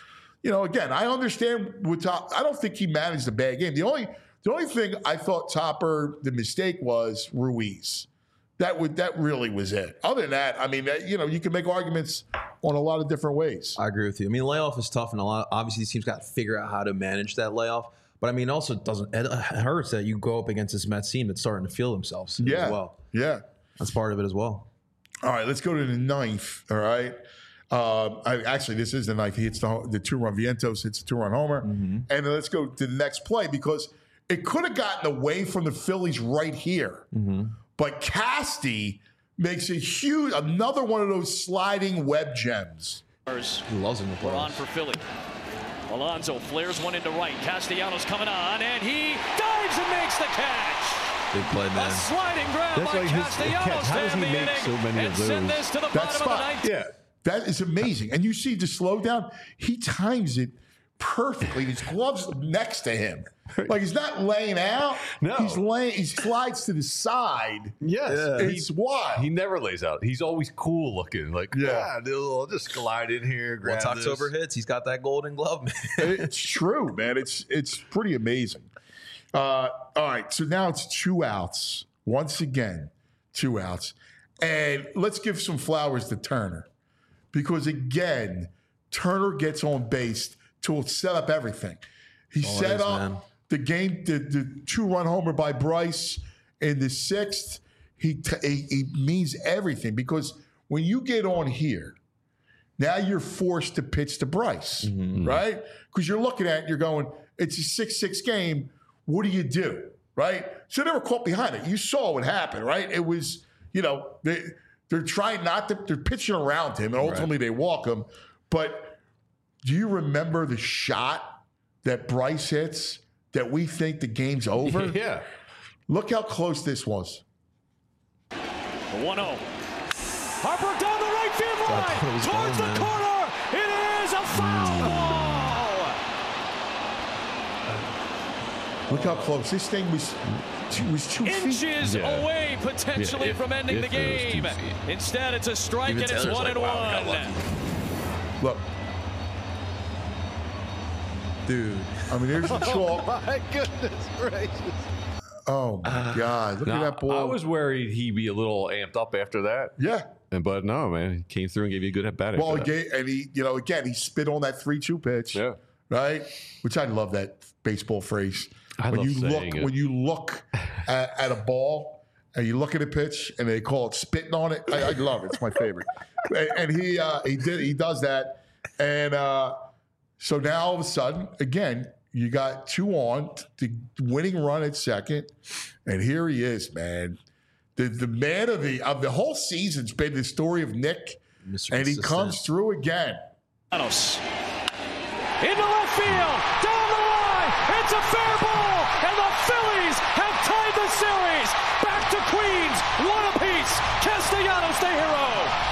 Again, I understand I don't think he managed a bad game. The only thing I thought Topper, the mistake was Ruiz. That really was it. Other than that, I mean, you can make arguments on a lot of different ways. I agree with you. I mean, layoff is tough, and obviously these teams got to figure out how to manage that layoff. But I mean, also it hurts that you go up against this Mets team that's starting to feel themselves as well. Yeah, that's part of it as well. All right, let's go to the ninth. All right. Actually, this is the ninth. He hits the 2-run. Vientos hits the 2-run homer. And then let's go to the next play, because it could have gotten away from the Phillies right here. But Casty makes another one of those sliding web gems. He loves him to play. We're on for Philly. Alonso flares one into right. Castellanos coming on, and he dives and makes the catch. Big play, man. A sliding grab by Castellanos to end the inning and send this to the bottom of the ninth. Yeah. That is amazing. And you see the slowdown, he times it perfectly. His glove's next to him. Like he's not laying out. No. He slides to the side. Yes. It's wild. He never lays out. He's always cool looking. Like, I'll just glide in here, grab Once October hits, he's got that golden glove, man. It's true, man. It's pretty amazing. All right, so now it's 2 outs. Once again, 2 outs. And let's give some flowers to Turner. Because again, Turner gets on base to set up everything. He set up the game, the 2-run homer by Bryce in the 6th. He means everything, because when you get on here, now you're forced to pitch to Bryce, right? Because you're looking at it, you're going, it's a 6-6 game. What do you do, right? So they were caught behind it. You saw what happened, right? It was, they're trying they're pitching around him, and ultimately they walk him. But do you remember the shot that Bryce hits that we think the game's over? Yeah. Look how close this was. 1-0. Harper down the right field line, towards the corner. It is a foul ball. Look how close. This thing was 2 inches away potentially from ending the game. Instead, it's a strike, and it's 1-1. Look. Dude. I mean, there's the chalk. My goodness gracious. Oh, my God. Look at that ball. I was worried he'd be a little amped up after that. Yeah. But no, man. He came through and gave you a good at-bat. Well, he spit on that 3-2 pitch. Yeah. Right? Which I love that baseball phrase. When you look at a ball and you look at a pitch and they call it spitting on it, I love it. It's my favorite. And he does that. And so now all of a sudden, again, you got 2 on, the winning run at second, and here he is, man. The man of the whole season's been the story of Nick, and he comes through again. Into left field, down the line, it's a and the Phillies have tied the series. Back to Queens, one apiece. Castellanos the hero.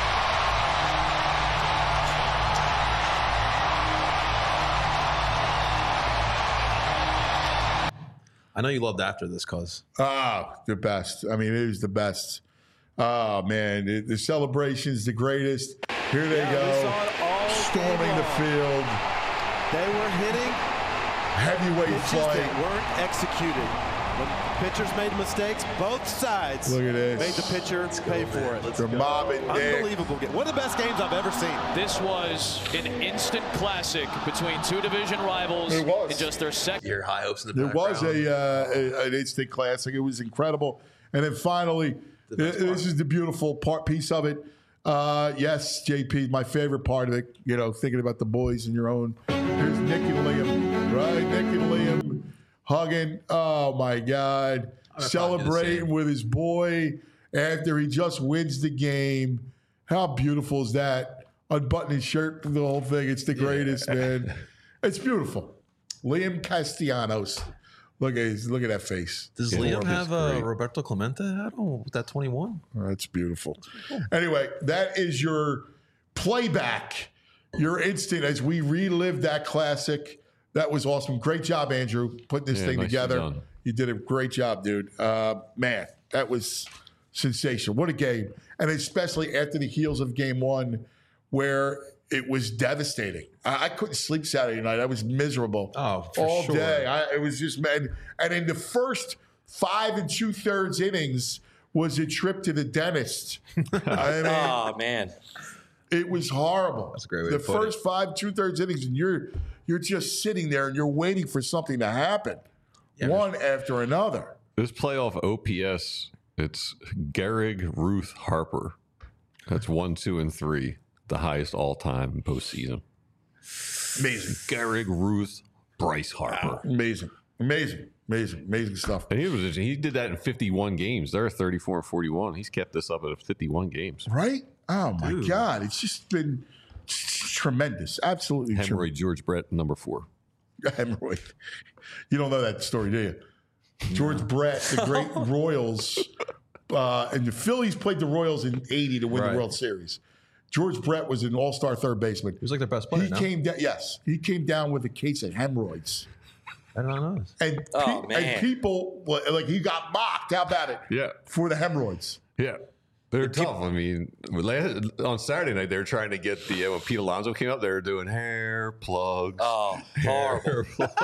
I know you loved after this, cuz. The best. I mean, it was the best. Oh, man. The celebration's the greatest. Here they go. Storming the field. They were hitting heavyweight flight. They weren't executed. When pitchers made mistakes, both sides Look at this. made the pitcher pay for it. They're mobbing Nick. Unbelievable game. One of the best games I've ever seen. This was an instant classic between two division rivals. It was. In just their second. Your high hopes in the There was an instant classic. It was incredible. And then finally, this is the beautiful piece of it. Yes, JP, my favorite part of it, thinking about the boys and your own. Here's Nick and Liam, right? Nick and Liam hugging. Oh, my God. Celebrating with his boy after he just wins the game. How beautiful is that? Unbutton his shirt, the whole thing. It's the greatest, man. It's beautiful. Liam Castellanos. Look at that face. Does Liam have a Roberto Clemente hat on with that 21? Oh, that's beautiful. Anyway, that is your playback, your instant as we relive that classic. That was awesome. Great job, Andrew, putting this thing together. Done. You did a great job, dude. Man, that was sensational. What a game. And especially after the heels of game one, where it was devastating. I couldn't sleep Saturday night. I was miserable all day. It was just, man. And in the first 5 2/3 innings was a trip to the dentist. Oh, man. It was horrible. That's a great way the to put it. first 5 2/3 innings, and you're just sitting there and you're waiting for something to happen, one after another. This playoff OPS, it's Gehrig, Ruth, Harper. That's 1, 2, and 3, the highest all time in postseason. Amazing. Gehrig, Ruth, Bryce Harper. Amazing stuff. And he did that in 51 games. They're 34 and 41. He's kept this up at 51 games. Right? Oh my God! It's just been tremendous. Absolutely Hemorrhoid tremendous. George Brett, number 4. Hemorrhoid. You don't know that story, do you? George Brett, the great Royals, and the Phillies played the Royals in '80 to win the World Series. George Brett was an all-star third baseman. He was like their best player. He came down with a case of hemorrhoids. I don't know. And people, like, he got mocked. How about it? Yeah. For the hemorrhoids. Yeah. They're tough. I mean, on Saturday night, they were trying to get when Pete Alonso came up, they were doing hair plugs. Oh, horrible.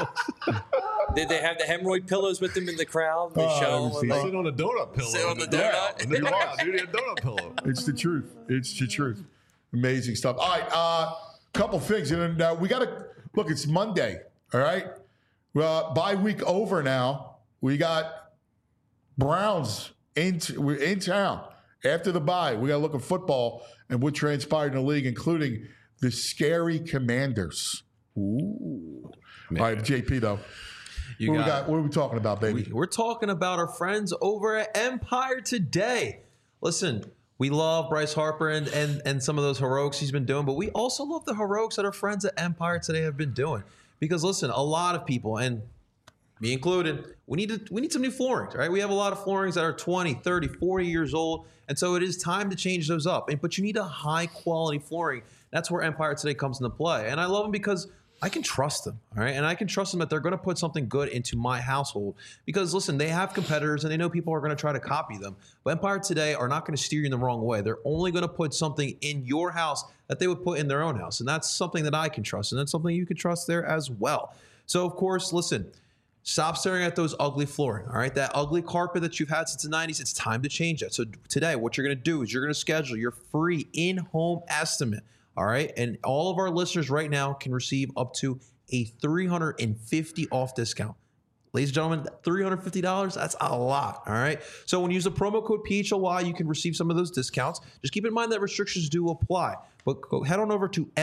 Did they have the hemorrhoid pillows with them in the crowd? They show them. Sit on a donut pillow. Sit on the donut. Wow, dude, a donut pillow. It's the truth. It's the truth. Amazing stuff. All right, couple things. And we got to look. It's Monday. All right. Well, bye week over now. We got Browns we're in town after the bye. We got to look at football and what transpired in the league, including the scary Commanders. Ooh. Man. All right, JP though. What are we talking about, baby? We're talking about our friends over at Empire Today. Listen, we love Bryce Harper and some of those heroics he's been doing, but we also love the heroics that our friends at Empire Today have been doing. Because listen, a lot of people, and me included, we need some new floorings, right? We have a lot of floorings that are 20, 30, 40 years old, and so it is time to change those up. But you need a high quality flooring. That's where Empire Today comes into play. And I love them because I can trust them, all right? And I can trust them that they're going to put something good into my household. Because listen, they have competitors and they know people are going to try to copy them. But Empire Today are not going to steer you in the wrong way. They're only going to put something in your house that they would put in their own house. And that's something that I can trust. And that's something you can trust there as well. So, of course, listen, stop staring at those ugly flooring, all right? That ugly carpet that you've had since the 90s, it's time to change that. So today, what you're going to do is you're going to schedule your free in-home estimate, all right? And all of our listeners right now can receive up to a $350 off discount. Ladies and gentlemen, $350, that's a lot, all right? So when you use the promo code PHLY, you can receive some of those discounts. Just keep in mind that restrictions do apply. But go head on over to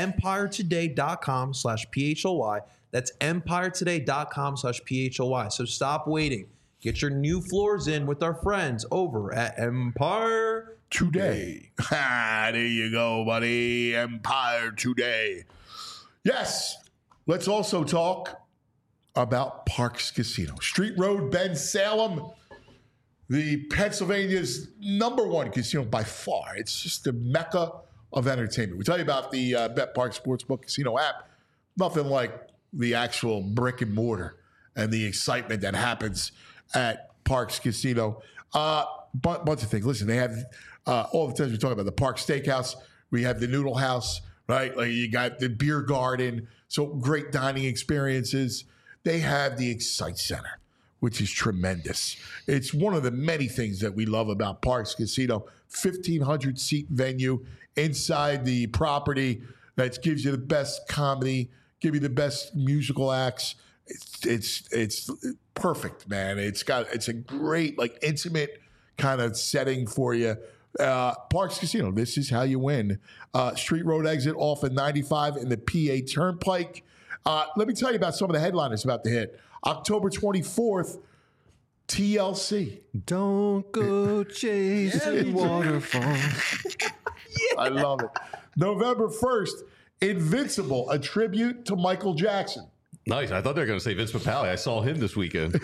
empiretoday.com/PHLY. That's empiretoday.com/PHLY. So stop waiting. Get your new floors in with our friends over at Empire Today. There you go, buddy. Empire Today. Yes. Let's also talk about Parx Casino. Street Road, Ben Salem, the Pennsylvania's #1 casino by far. It's just the mecca of entertainment. We tell you about the BetParx Sportsbook Casino app. Nothing like the actual brick and mortar and the excitement that happens at Parx Casino. Bunch of things. Listen, they have all the times we talk about the Park Steakhouse. We have the Noodle House, right? Like you got the beer garden. So great dining experiences. They have the Excite Center, which is tremendous. It's one of the many things that we love about Parx Casino. 1,500 seat venue inside the property that gives you the best comedy, give you the best musical acts. It's perfect, man. It's a great, like, intimate kind of setting for you. Parx Casino, this is how you win. Street Road exit off at 95 in the PA Turnpike. Let me tell you about some of the headliners about to hit. October 24th, TLC. Don't go chasing waterfalls. I love it. November 1st, Invincible, a tribute to Michael Jackson. Nice. I thought they were going to say Vince Papale. I saw him this weekend.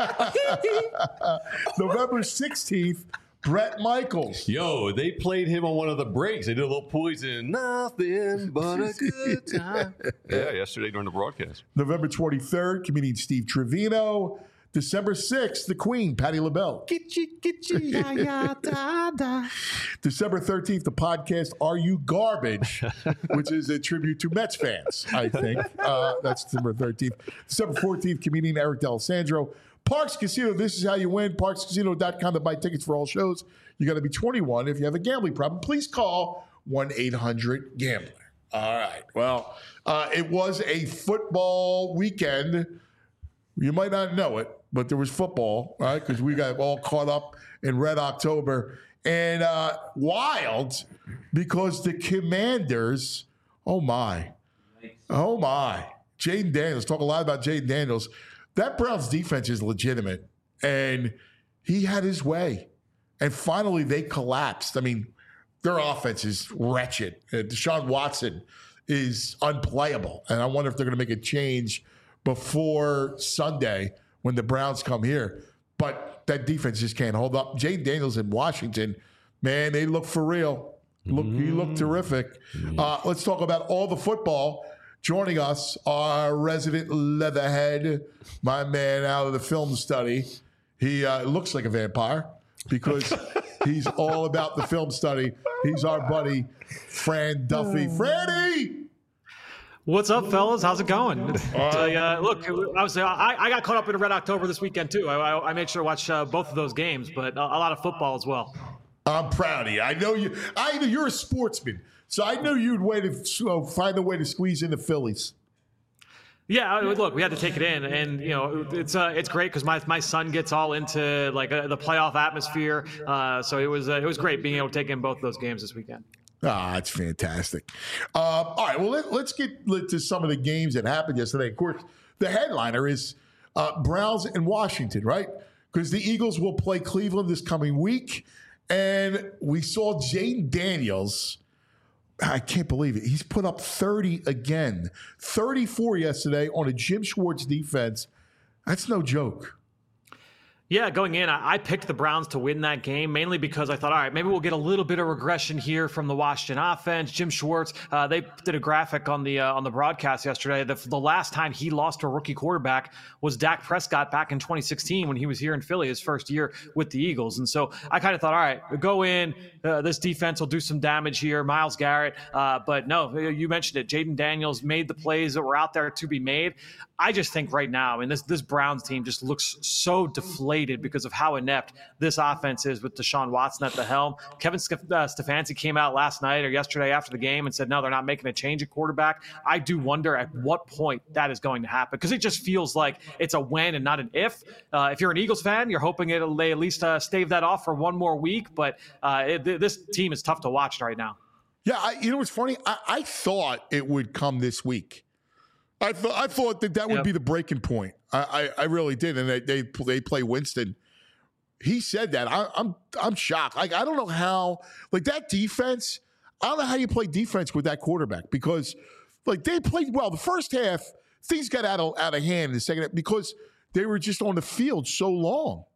November 16th, Bret Michaels. Yo, they played him on one of the breaks. They did a little Poison. Nothing but a good time. Yeah, yesterday during the broadcast. November 23rd, comedian Steve Trevino. December 6th, the Queen, Patti LaBelle. December 13th, the podcast Are You Garbage, which is a tribute to Mets fans, I think. That's December 13th. December 14th, comedian Eric D'Alessandro. Parx Casino, this is how you win. ParxCasino.com to buy tickets for all shows. You got to be 21. If you have a gambling problem, please call 1-800-GAMBLER. All right. Well, it was a football weekend. You might not know it, but there was football, right? Because we got all caught up in Red October. And wild because the Commanders, oh my. Jaden Daniels, talk a lot about Jaden Daniels. That Browns defense is legitimate, and he had his way. And finally, they collapsed. I mean, their offense is wretched. Deshaun Watson is unplayable, and I wonder if they're going to make a change before Sunday when the Browns come here. But that defense just can't hold up. Jaden Daniels in Washington, man, they look for real. He looked terrific. Let's talk about all the football. Joining us, our resident leatherhead, my man out of the film study. He looks like a vampire because he's all about the film study. He's our buddy, Fran Duffy. Franny! What's up, fellas? How's it going? Look, obviously, I got caught up in Red October this weekend, too. I made sure to watch both of those games, but a lot of football as well. I'm proud of you. I know you're a sportsman, so I knew you'd find a way to squeeze in the Phillies. Yeah, look, we had to take it in, and it's great because my son gets all into like the playoff atmosphere. So it was great being able to take in both of those games this weekend. It's fantastic. All right, well, let's get to some of the games that happened yesterday. Of course, the headliner is Browns and Washington, right? Because the Eagles will play Cleveland this coming week. And we saw Jaden Daniels. I can't believe it. He's put up 30 again. 34 yesterday on a Jim Schwartz defense. That's no joke. Yeah, going in, I picked the Browns to win that game, mainly because I thought, all right, maybe we'll get a little bit of regression here from the Washington offense. Jim Schwartz, they did a graphic on the broadcast yesterday. The last time he lost to a rookie quarterback was Dak Prescott back in 2016 when he was here in Philly, his first year with the Eagles. And so I kind of thought, all right, go in. This defense will do some damage here. Myles Garrett. But no, you mentioned it. Jaden Daniels made the plays that were out there to be made. I just think right now, I mean, this Browns team just looks so deflated because of how inept this offense is with Deshaun Watson at the helm. Kevin Stefanski came out last night or yesterday after the game and said, no, they're not making a change at quarterback. I do wonder at what point that is going to happen because it just feels like it's a when and not an if. If you're an Eagles fan, you're hoping they at least stave that off for one more week. But this team is tough to watch right now. Yeah, you know what's funny? I thought it would come this week. I thought that would be the breaking point. I really did, and they play Winston. He said that. I'm shocked. Like I don't know how. Like that defense. I don't know how you play defense with that quarterback because like they played well the first half. things got out of hand in the second half because they were just on the field so long.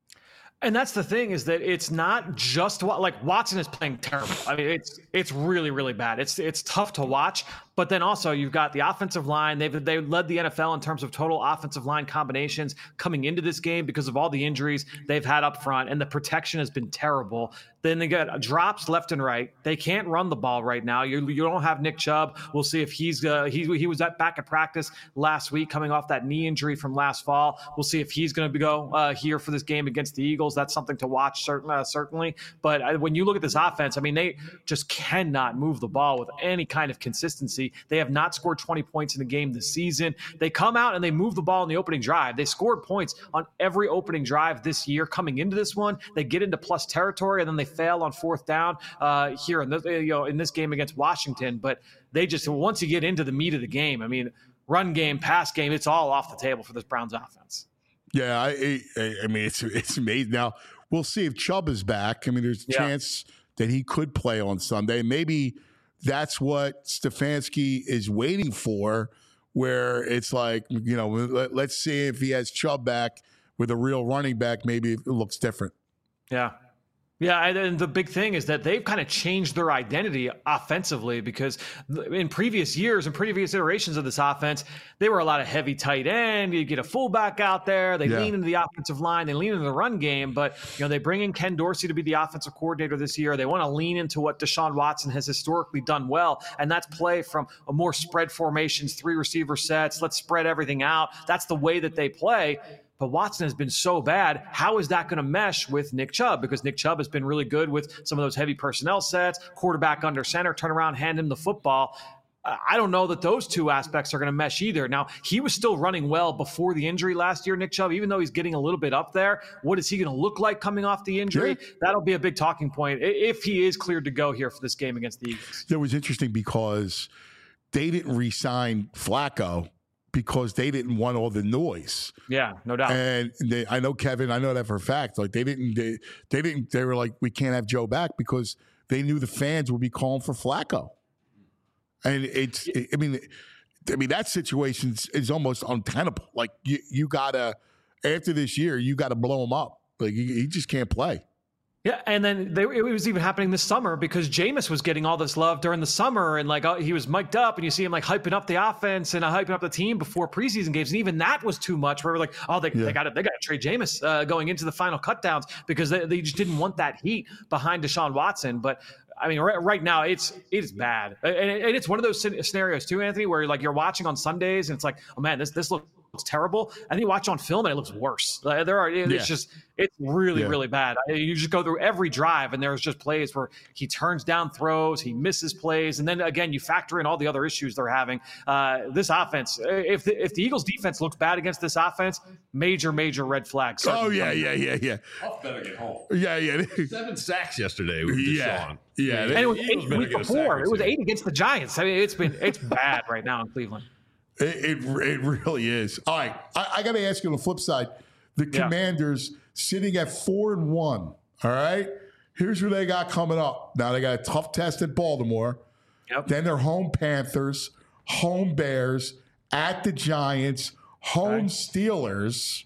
And that's the thing, is that it's not just like Watson is playing terrible. I mean, it's really, really bad. It's tough to watch. But then also you've got the offensive line. They led the NFL in terms of total offensive line combinations coming into this game because of all the injuries they've had up front, and the protection has been terrible. Then they got drops left and right. They can't run the ball right now. You don't have Nick Chubb. We'll see if he was back at practice last week coming off that knee injury from last fall. We'll see if he's going to go here for this game against the Eagles. That's something to watch, certainly. But when you look at this offense, I mean, they just cannot move the ball with any kind of consistency. They have not scored 20 points in a game this season. They come out and they move the ball in the opening drive. They scored points on every opening drive this year. Coming into this one, they get into plus territory, and then they fail on fourth down here in this game against Washington. But they just, once you get into the meat of the game, I mean, run game, pass game, it's all off the table for this Browns offense. Yeah, I mean, it's amazing. Now, we'll see if Chubb is back. I mean, there's a chance that he could play on Sunday. Maybe that's what Stefanski is waiting for, where it's like, let's see if he has Chubb back with a real running back. Maybe it looks different. Yeah. Yeah, and the big thing is that they've kind of changed their identity offensively, because in previous years and previous iterations of this offense, they were a lot of heavy tight end. You get a fullback out there. They lean into the offensive line. They lean into the run game. But, they bring in Ken Dorsey to be the offensive coordinator this year. They want to lean into what Deshaun Watson has historically done well, and that's play from a more spread formations, 3 receiver sets. Let's spread everything out. That's the way that they play. But Watson has been so bad. How is that going to mesh with Nick Chubb? Because Nick Chubb has been really good with some of those heavy personnel sets, quarterback under center, turn around, hand him the football. I don't know that those two aspects are going to mesh either. Now, he was still running well before the injury last year, Nick Chubb, even though he's getting a little bit up there. What is he going to look like coming off the injury? Yeah. That'll be a big talking point if he is cleared to go here for this game against the Eagles. It was interesting because they didn't re-sign Flacco because they didn't want all the noise. Yeah, no doubt. And I know, Kevin, I know that for a fact. Like they were like, we can't have Joe back because they knew the fans would be calling for Flacco. And I mean, that situation is almost untenable. Like you gotta, after this year, you gotta blow him up. Like he just can't play. Yeah, and then it was even happening this summer because Jameis was getting all this love during the summer, and he was mic'd up, and you see him hyping up the offense and hyping up the team before preseason games, and even that was too much. Where we're like, oh, they got to trade Jameis going into the final cutdowns because they just didn't want that heat behind Deshaun Watson. But I mean, right now it's bad, and it's one of those scenarios too, Anthony, where you're watching on Sundays and it's like, oh man, this looks terrible, and then you watch on film and it looks worse. It's really bad. You just go through every drive and there's just plays where he turns down throws, he misses plays, and then again you factor in all the other issues they're having. This offense, if the Eagles defense looks bad against this offense, major red flags. Oh yeah. Huff better get home. Yeah. 7 sacks yesterday with Deshaun. Yeah. And it was 8 the week before. It was 8 against the Giants. I mean, it's bad right now in Cleveland. It really is. All right, I got to ask you on the flip side, the Commanders sitting at 4-1. All right, here's who they got coming up. Now they got a tough test at Baltimore. Yep. Then they're home Panthers, home Bears, at the Giants, home Steelers,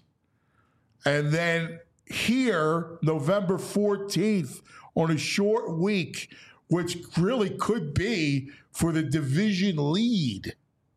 and then here November 14th on a short week, which really could be for the division lead.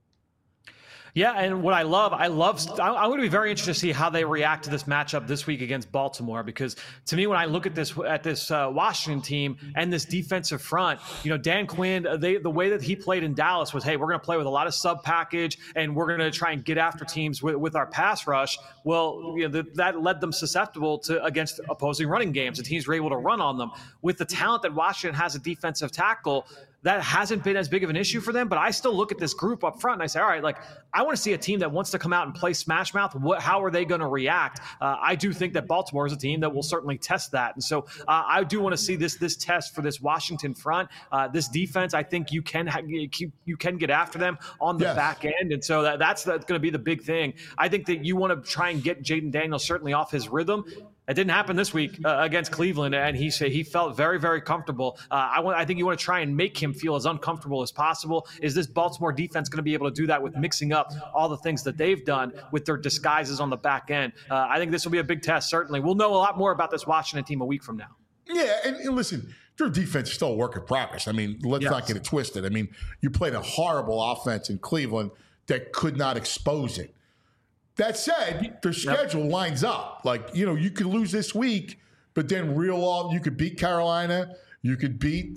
Yeah, and what I'm going to be very interested to see how they react to this matchup this week against Baltimore, because to me, when I look at this Washington team and this defensive front, Dan Quinn, the way that he played in Dallas was, hey, we're going to play with a lot of sub package and we're going to try and get after teams with our pass rush. Well, that led them susceptible against opposing running games, and teams were able to run on them. With the talent that Washington has at defensive tackle, that hasn't been as big of an issue for them, but I still look at this group up front and I say, all right, I want to see a team that wants to come out and play smash mouth. How are they going to react? I do think that Baltimore is a team that will certainly test that. And so I do want to see this test for this Washington front. This defense, I think you can get after them on the back end. And so that's going to be the big thing. I think that you want to try and get Jaden Daniels certainly off his rhythm. It didn't happen this week against Cleveland, and he said he felt very, very comfortable. I think you want to try and make him feel as uncomfortable as possible. Is this Baltimore defense going to be able to do that with mixing up all the things that they've done with their disguises on the back end? I think this will be a big test, certainly. We'll know a lot more about this Washington team a week from now. Yeah, and listen, their defense is still a work in progress. I mean, let's not get it twisted. I mean, you played a horrible offense in Cleveland that could not expose it. That said, their schedule lines up. Like, you could lose this week, but then reel off. You could beat Carolina. You could beat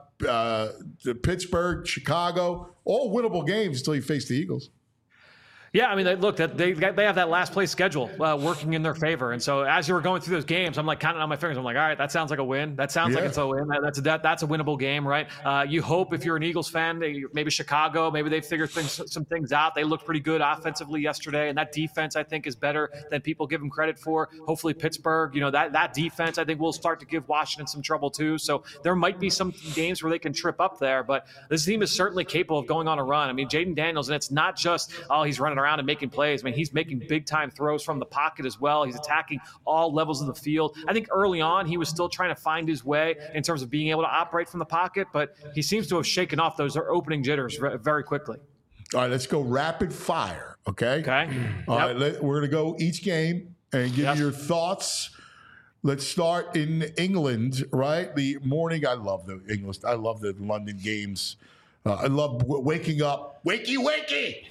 Pittsburgh, Chicago. All winnable games until you face the Eagles. Yeah, I mean, look, they have that last place schedule working in their favor. And so as you were going through those games, I'm like counting on my fingers. I'm like, all right, that sounds like a win. That sounds like it's a win. That's a winnable game, right? You hope if you're an Eagles fan, maybe Chicago, maybe they figured some things out. They looked pretty good offensively yesterday. And that defense, I think, is better than people give them credit for. Hopefully Pittsburgh, that defense, I think, will start to give Washington some trouble too. So there might be some games where they can trip up there. But this team is certainly capable of going on a run. I mean, Jaden Daniels, and it's not just, he's running around and making plays. I mean, he's making big-time throws from the pocket as well. He's attacking all levels of the field. I think early on he was still trying to find his way in terms of being able to operate from the pocket, but he seems to have shaken off those opening jitters very quickly. All right, let's go rapid fire, okay? All right, we're going to go each game and give you your thoughts. Let's start in England, right? The morning, I love the English. I love the London games. I love waking up. Wakey!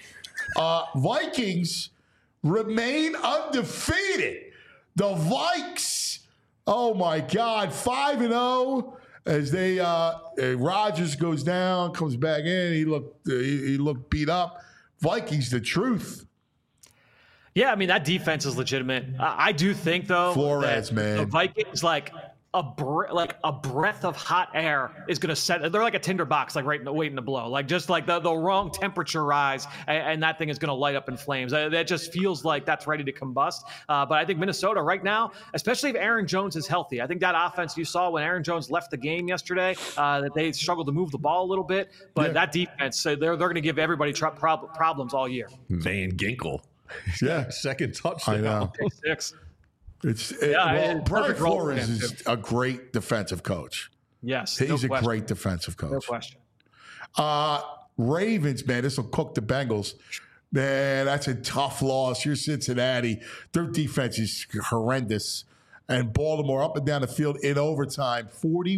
Vikings remain undefeated. The Vikes, oh my God, 5-0 as they Rodgers goes down, comes back in. He looked beat up. Vikings, the truth. Yeah, I mean, that defense is legitimate. I do think, though, Flores, man, the Vikings, like a breath of hot air is going to set. They're like a tinderbox, like waiting to blow. Like just like the wrong temperature rise, and that thing is going to light up in flames. That just feels like that's ready to combust. But I think Minnesota right now, especially if Aaron Jones is healthy, I think that offense you saw when Aaron Jones left the game yesterday, that they struggled to move the ball a little bit. But that defense, they're going to give everybody problems all year. Van Ginkel, second touchdown. I know. 6. Brian Flores is a great defensive coach. Yes, he's a great defensive coach. No question. Ravens, man, this will cook the Bengals. Man, that's a tough loss. You're Cincinnati. Their defense is horrendous. And Baltimore up and down the field in overtime,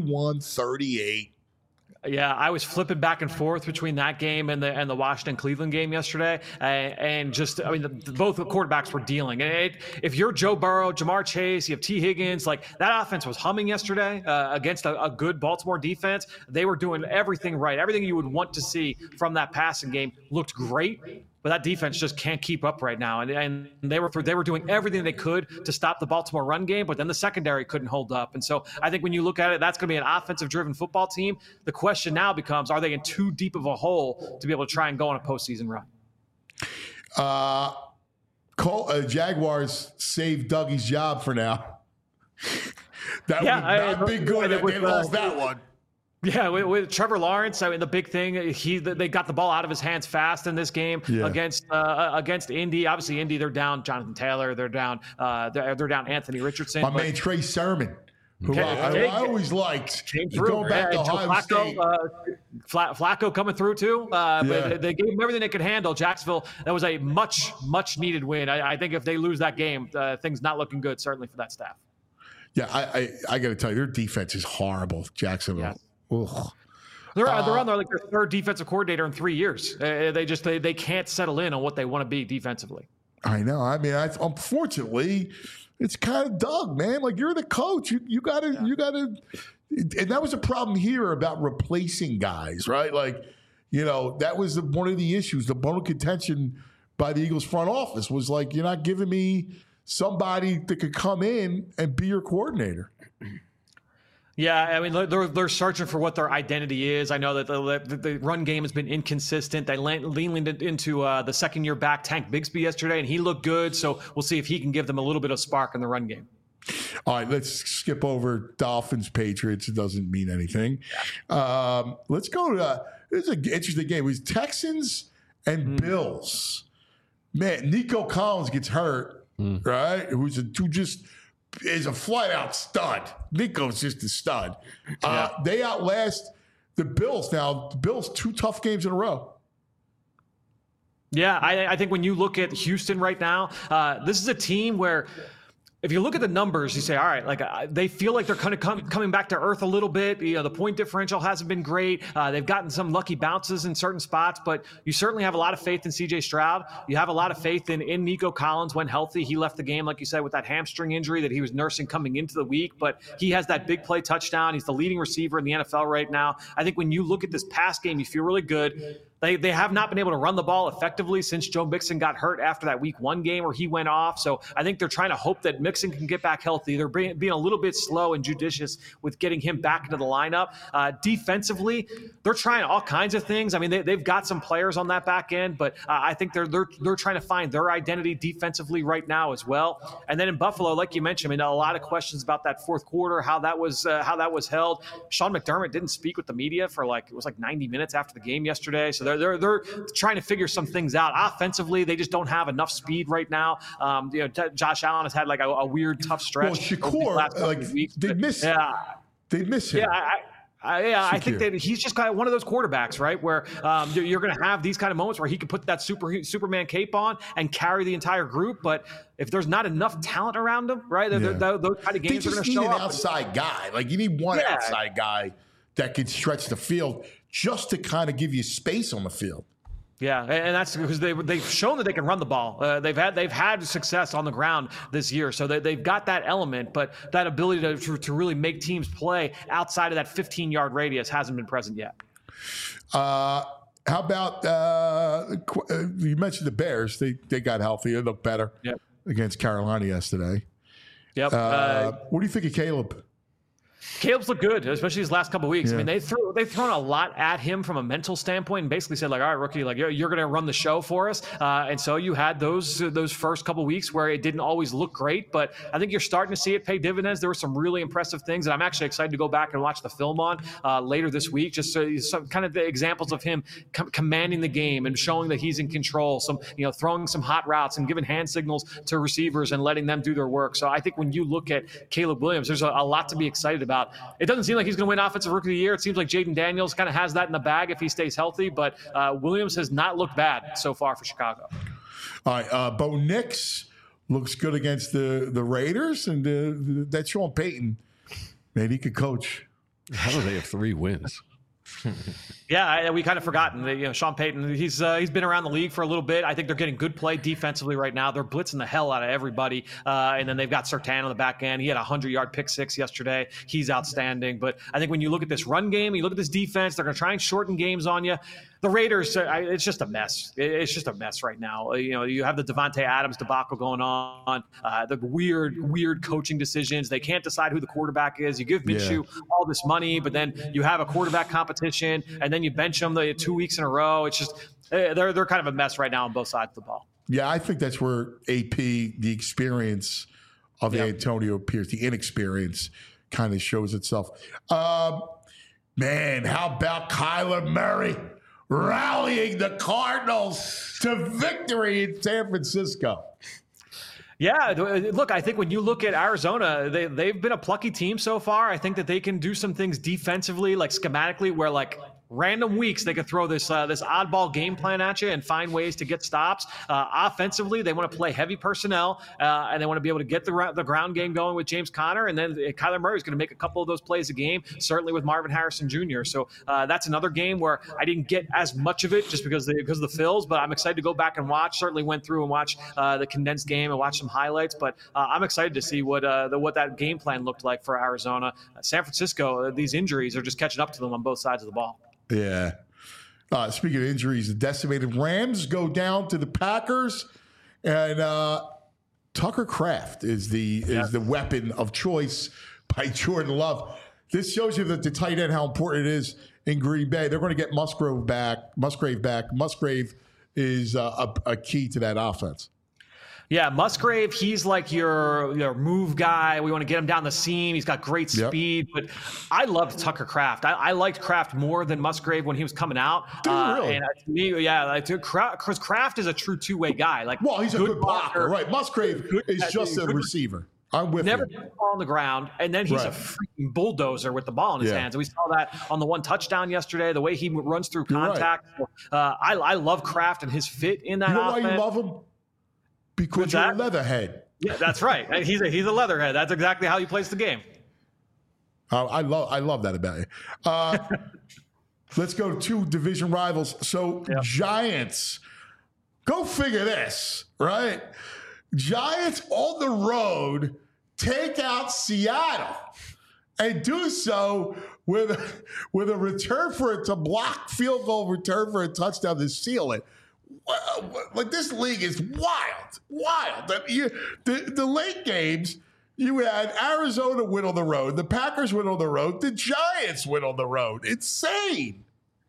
41-38. Yeah, I was flipping back and forth between that game and the Washington-Cleveland game yesterday, and just, I mean, both the quarterbacks were dealing. And if you're Joe Burrow, Jamar Chase, you have T. Higgins, like that offense was humming yesterday against a good Baltimore defense. They were doing everything right. Everything you would want to see from that passing game looked great. But that defense just can't keep up right now, and they were doing everything they could to stop the Baltimore run game, but then the secondary couldn't hold up. And so I think when you look at it, that's going to be an offensive-driven football team. The question now becomes: are they in too deep of a hole to be able to try and go on a postseason run? Jaguars saved Dougie's job for now. That would not be good if they lost that one. Yeah, with Trevor Lawrence, I mean, the big thing, they got the ball out of his hands fast in this game against Indy. Obviously, Indy, they're down Jonathan Taylor, they're down Anthony Richardson. My man Trey Sermon, who I always liked. Going back to Ohio State. Flacco coming through too. But they gave him everything they could handle. Jacksonville, that was a much needed win. I think if they lose that game, things not looking good, certainly for that staff. Yeah, I got to tell you, their defense is horrible, Jacksonville. Yeah. They're on their third defensive coordinator in 3 years. They can't settle in on what they want to be defensively. I know. I mean, unfortunately, it's kind of Doug, man. Like, you're the coach. You gotta. And that was a problem here about replacing guys, right? Like, that was one of the issues. The bone of contention by the Eagles front office was like, you're not giving me somebody that could come in and be your coordinator. Yeah, I mean, they're searching for what their identity is. I know that the run game has been inconsistent. They leaned into the second-year back Tank Bigsby yesterday, and he looked good. So we'll see if he can give them a little bit of spark in the run game. All right, let's skip over Dolphins-Patriots. It doesn't mean anything. Let's go to this is an interesting game. It was Texans and Bills. Man, Nico Collins gets hurt, right? Who just is a flat-out stud. Nico's just a stud. They outlast the Bills. Now, the Bills, 2 tough games in a row. Yeah, I think when you look at Houston right now, this is a team where if you look at the numbers, you say, all right, like they feel like they're kind of coming back to earth a little bit. You know, the point differential hasn't been great. They've gotten some lucky bounces in certain spots, but you certainly have a lot of faith in C.J. Stroud. You have a lot of faith in Nico Collins when healthy. He left the game, like you said, with that hamstring injury that he was nursing coming into the week, but he has that big play touchdown. He's the leading receiver in the NFL right now. I think when you look at this past game, you feel really good. They have not been able to run the ball effectively since Joe Mixon got hurt after that Week 1 game where he went off. So I think they're trying to hope that Mixon can get back healthy. They're being a little bit slow and judicious with getting him back into the lineup. Defensively, they're trying all kinds of things. I mean, they've got some players on that back end, but I think they're trying to find their identity defensively right now as well. And then in Buffalo, like you mentioned, I mean, a lot of questions about that fourth quarter, how that was held. Sean McDermott didn't speak with the media for it was 90 minutes after the game yesterday. So they're trying to figure some things out. Offensively, they just don't have enough speed right now. Josh Allen has had a weird tough stretch. Well, Shakur, they miss him. Yeah, I think that he's just kind of one of those quarterbacks, right, where you're going to have these kind of moments where he can put that Superman cape on and carry the entire group. But if there's not enough talent around him, right, those kind of games are going to show up. You need an outside guy. You need one outside guy that can stretch the field just to kind of give you space on the field. Yeah, and that's because they've shown that they can run the ball. They've had success on the ground this year, so they've got that element, but that ability to really make teams play outside of that 15-yard radius hasn't been present yet. How about you mentioned the Bears? They got healthy. They looked better against Carolina yesterday. Yep. What do you think of Caleb? Caleb's looked good, especially his last couple of weeks. Yeah. I mean, they've thrown a lot at him from a mental standpoint and basically said, all right, rookie, you're going to run the show for us. And so you had those first couple of weeks where it didn't always look great, but I think you're starting to see it pay dividends. There were some really impressive things that I'm actually excited to go back and watch the film on later this week, just so some kind of the examples of him commanding the game and showing that he's in control, throwing some hot routes and giving hand signals to receivers and letting them do their work. So I think when you look at Caleb Williams, there's a lot to be excited about. It doesn't seem like he's going to win Offensive Rookie of the Year. It seems like Jaden Daniels kind of has that in the bag if he stays healthy, but Williams has not looked bad so far for Chicago. All right, Bo Nix looks good against the Raiders, and that Sean Payton, man, he could coach. How do they have 3 wins? Yeah, we kind of forgotten. Sean Payton, he's been around the league for a little bit. I think they're getting good play defensively right now. They're blitzing the hell out of everybody. And then they've got Surtain on the back end. He had a 100-yard pick six yesterday. He's outstanding. But I think when you look at this run game, you look at this defense, they're going to try and shorten games on you. The Raiders, it's just a mess. It's just a mess right now. You have the Devontae Adams debacle going on, the weird coaching decisions. They can't decide who the quarterback is. You give Minshew all this money, but then you have a quarterback competition, and then you bench them 2 weeks in a row. It's just they're kind of a mess right now on both sides of the ball. Yeah, I think that's where AP, the experience of Antonio Pierce, the inexperience, kind of shows itself. Man, how about Kyler Murray rallying the Cardinals to victory in San Francisco? Yeah, look, I think when you look at Arizona, they've been a plucky team so far. I think that they can do some things defensively, schematically, where random weeks they could throw this oddball game plan at you and find ways to get stops. Offensively, they want to play heavy personnel and they want to be able to get the ground game going with James Conner, and then Kyler Murray is going to make a couple of those plays a game, certainly with Marvin Harrison Jr. So that's another game where I didn't get as much of it just because of the fills, but I'm excited to go back and watch. Certainly went through and watch the condensed game and watch some highlights, but I'm excited to see what that game plan looked like for Arizona. San Francisco, these injuries are just catching up to them on both sides of the ball. Yeah. Speaking of injuries, the decimated Rams go down to the Packers, and Tucker Kraft is the weapon of choice by Jordan Love. This shows you that the tight end, how important it is in Green Bay. They're going to get Musgrave back. Musgrave is a key to that offense. Yeah, Musgrave, he's like your move guy. We want to get him down the seam. He's got great speed. But I loved Tucker Kraft. I liked Kraft more than Musgrave when he was coming out. Really? And to me, because Kraft is a true two-way guy. He's a good blocker, right? Musgrave is just a receiver. I'm with never you. put the ball on the ground, and then he's a freaking bulldozer with the ball in his hands. And we saw that on the one touchdown yesterday, the way he runs through contact. Right. I love Kraft and his fit in that offense. You know why you love him? Because you're a leatherhead. Yeah, that's right. And he's a leatherhead. That's exactly how he plays the game. I love that about you. Let's go to 2 division rivals. So Giants, go figure this, right? Giants on the road take out Seattle and do so with a return for it to block field goal return for a touchdown to seal it. Like, this league is wild. The late games, you had Arizona win on the road, the Packers win on the road, the Giants win on the road. Insane.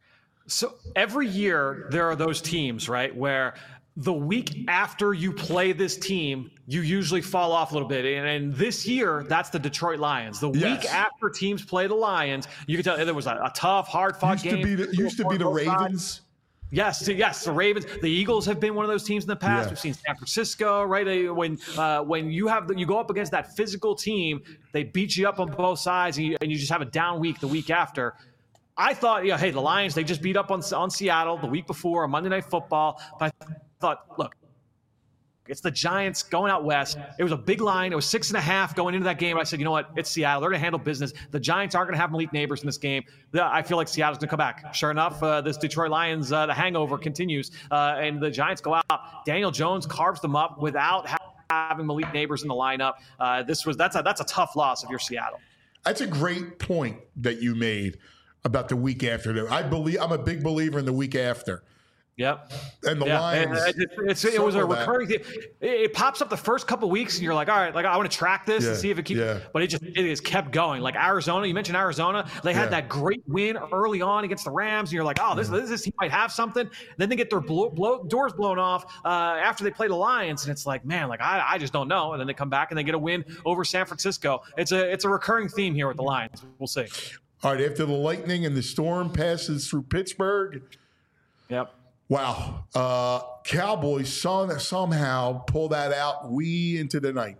So every year there are those teams, right, where the week after you play this team, you usually fall off a little bit. And this year, that's the Detroit Lions. The week after teams play the Lions, you can tell there was a tough, hard-fought game. Used to be the Ravens. Yes, the Ravens. The Eagles have been one of those teams in the past. We've seen San Francisco, right? When you go up against that physical team, they beat you up on both sides, and you just have a down week the week after. I thought, hey, the Lions, they just beat up on Seattle the week before on Monday Night Football. But I thought, look, it's the Giants going out west. It was a big line. It was 6.5 going into that game. I said, you know what? It's Seattle. They're going to handle business. The Giants aren't going to have Malik Neighbors in this game. I feel like Seattle's going to come back. Sure enough, this Detroit Lions, the hangover continues, and the Giants go out. Daniel Jones carves them up without having Malik Neighbors in the lineup. That's a tough loss if you're Seattle. That's a great point that you made about the week after. I'm a big believer in the week after. Yep. And the Lions. It was a recurring thing. It pops up the first couple of weeks, and you're like, all right, I want to track this and see if it keeps. But it has kept going. Like Arizona, you mentioned Arizona. They had that great win early on against the Rams, and you're like, oh, this team might have something. Then they get their doors blown off after they play the Lions, and it's like, man, I just don't know. And then they come back and they get a win over San Francisco. It's a recurring theme here with the Lions. We'll see. All right, after the lightning and the storm passes through Pittsburgh. Yep. Wow. Cowboys somehow pull that out into the night.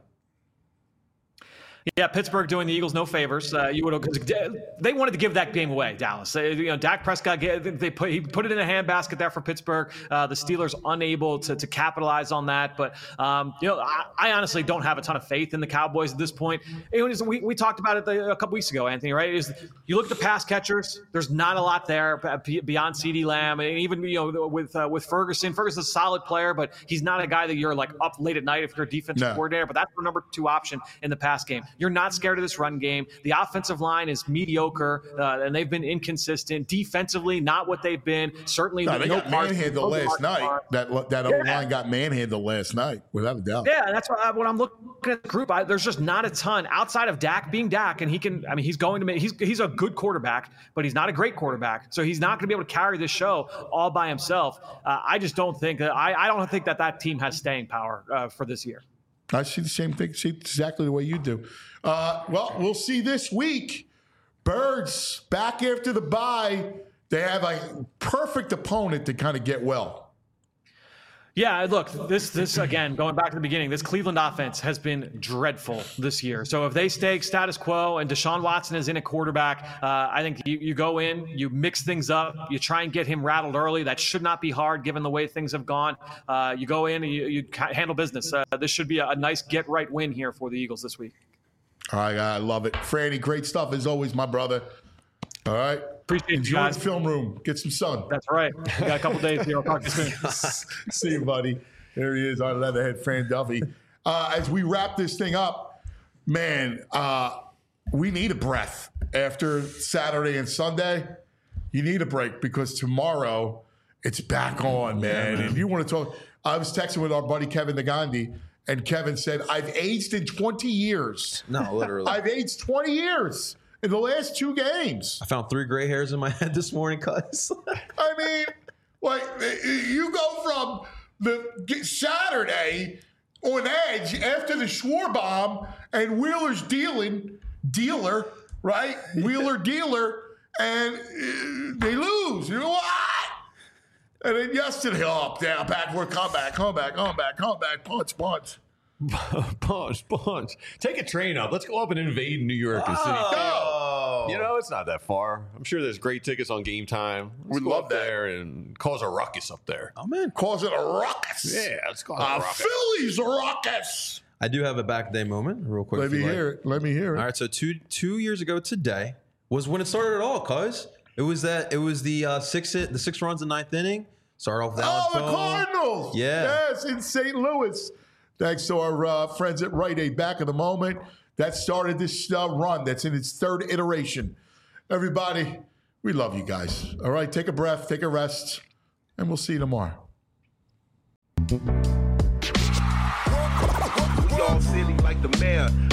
Yeah, Pittsburgh doing the Eagles no favors. They wanted to give that game away, Dallas. Dak Prescott, he put it in a handbasket there for Pittsburgh. The Steelers unable to capitalize on that. But I honestly don't have a ton of faith in the Cowboys at this point. We talked about it a couple weeks ago, Anthony. Right? You look at the pass catchers. There's not a lot there beyond CeeDee Lamb, and even with Ferguson. Ferguson's a solid player, but he's not a guy that you're like up late at night if you're a defensive coordinator. But that's the number 2 option in the pass game. You're not scared of this run game. The offensive line is mediocre, and they've been inconsistent. Defensively, not what they've been. Certainly, they got manhandled last night. That O-line got manhandled last night, without a doubt. Yeah, that's when I'm looking at the group. There's just not a ton outside of Dak being Dak, and he's going to make. He's a good quarterback, but he's not a great quarterback. So he's not going to be able to carry this show all by himself. I just don't think that. I don't think that team has staying power for this year. I see the same thing. See exactly the way you do. Well, we'll see this week. Birds back after the bye. They have a perfect opponent to kind of get well. Yeah, look, this again, going back to the beginning, this Cleveland offense has been dreadful this year. So if they stay status quo and Deshaun Watson is in a quarterback, I think you go in, you mix things up, you try and get him rattled early. That should not be hard given the way things have gone. You go in and you handle business. This should be a nice get-right win here for the Eagles this week. All right, I love it. Franny, great stuff as always, my brother. All right. Appreciate Enjoy you guys. the film room. Get some sun. That's right. We got a couple days here. I'll talk to you soon. See you, buddy. There he is, our leatherhead, Fran Duffy. As we wrap this thing up, man, we need a breath after Saturday and Sunday. You need a break because tomorrow it's back on, man. If you want to talk, I was texting with our buddy Kevin Nagandi, and Kevin said, I've aged in 20 years. No, literally. I've aged 20 years. In the last 2 games. I found 3 gray hairs in my head this morning, cuz. I mean, like, you go from the Saturday on edge after the Schwarbaum and Wheeler's dealer, right? Wheeler dealer, and they lose. You know what? And then yesterday, up, down, backward, come back, punch. Bunch. Take a train up. Let's go up and invade New York and City. Go! You know, it's not that far. I'm sure there's great tickets on Game Time. Let's We'd go love up that. there and cause a ruckus up there. Oh man, Cause it a ruckus. Yeah, let's cause a ruckus. Phillies ruckus. I do have a back day moment, real quick. Let me hear it. Let me hear it. All right, so two years ago today was when it started at all, cuz it was the six runs in ninth inning. Started off with Alex the Bohm. Cardinals. Yeah. Yes, in St. Louis. Thanks to our friends at Rite Aid back in the moment. That started this run that's in its third iteration. Everybody, we love you guys. All right, take a breath, take a rest, and we'll see you tomorrow. We all silly like the mayor.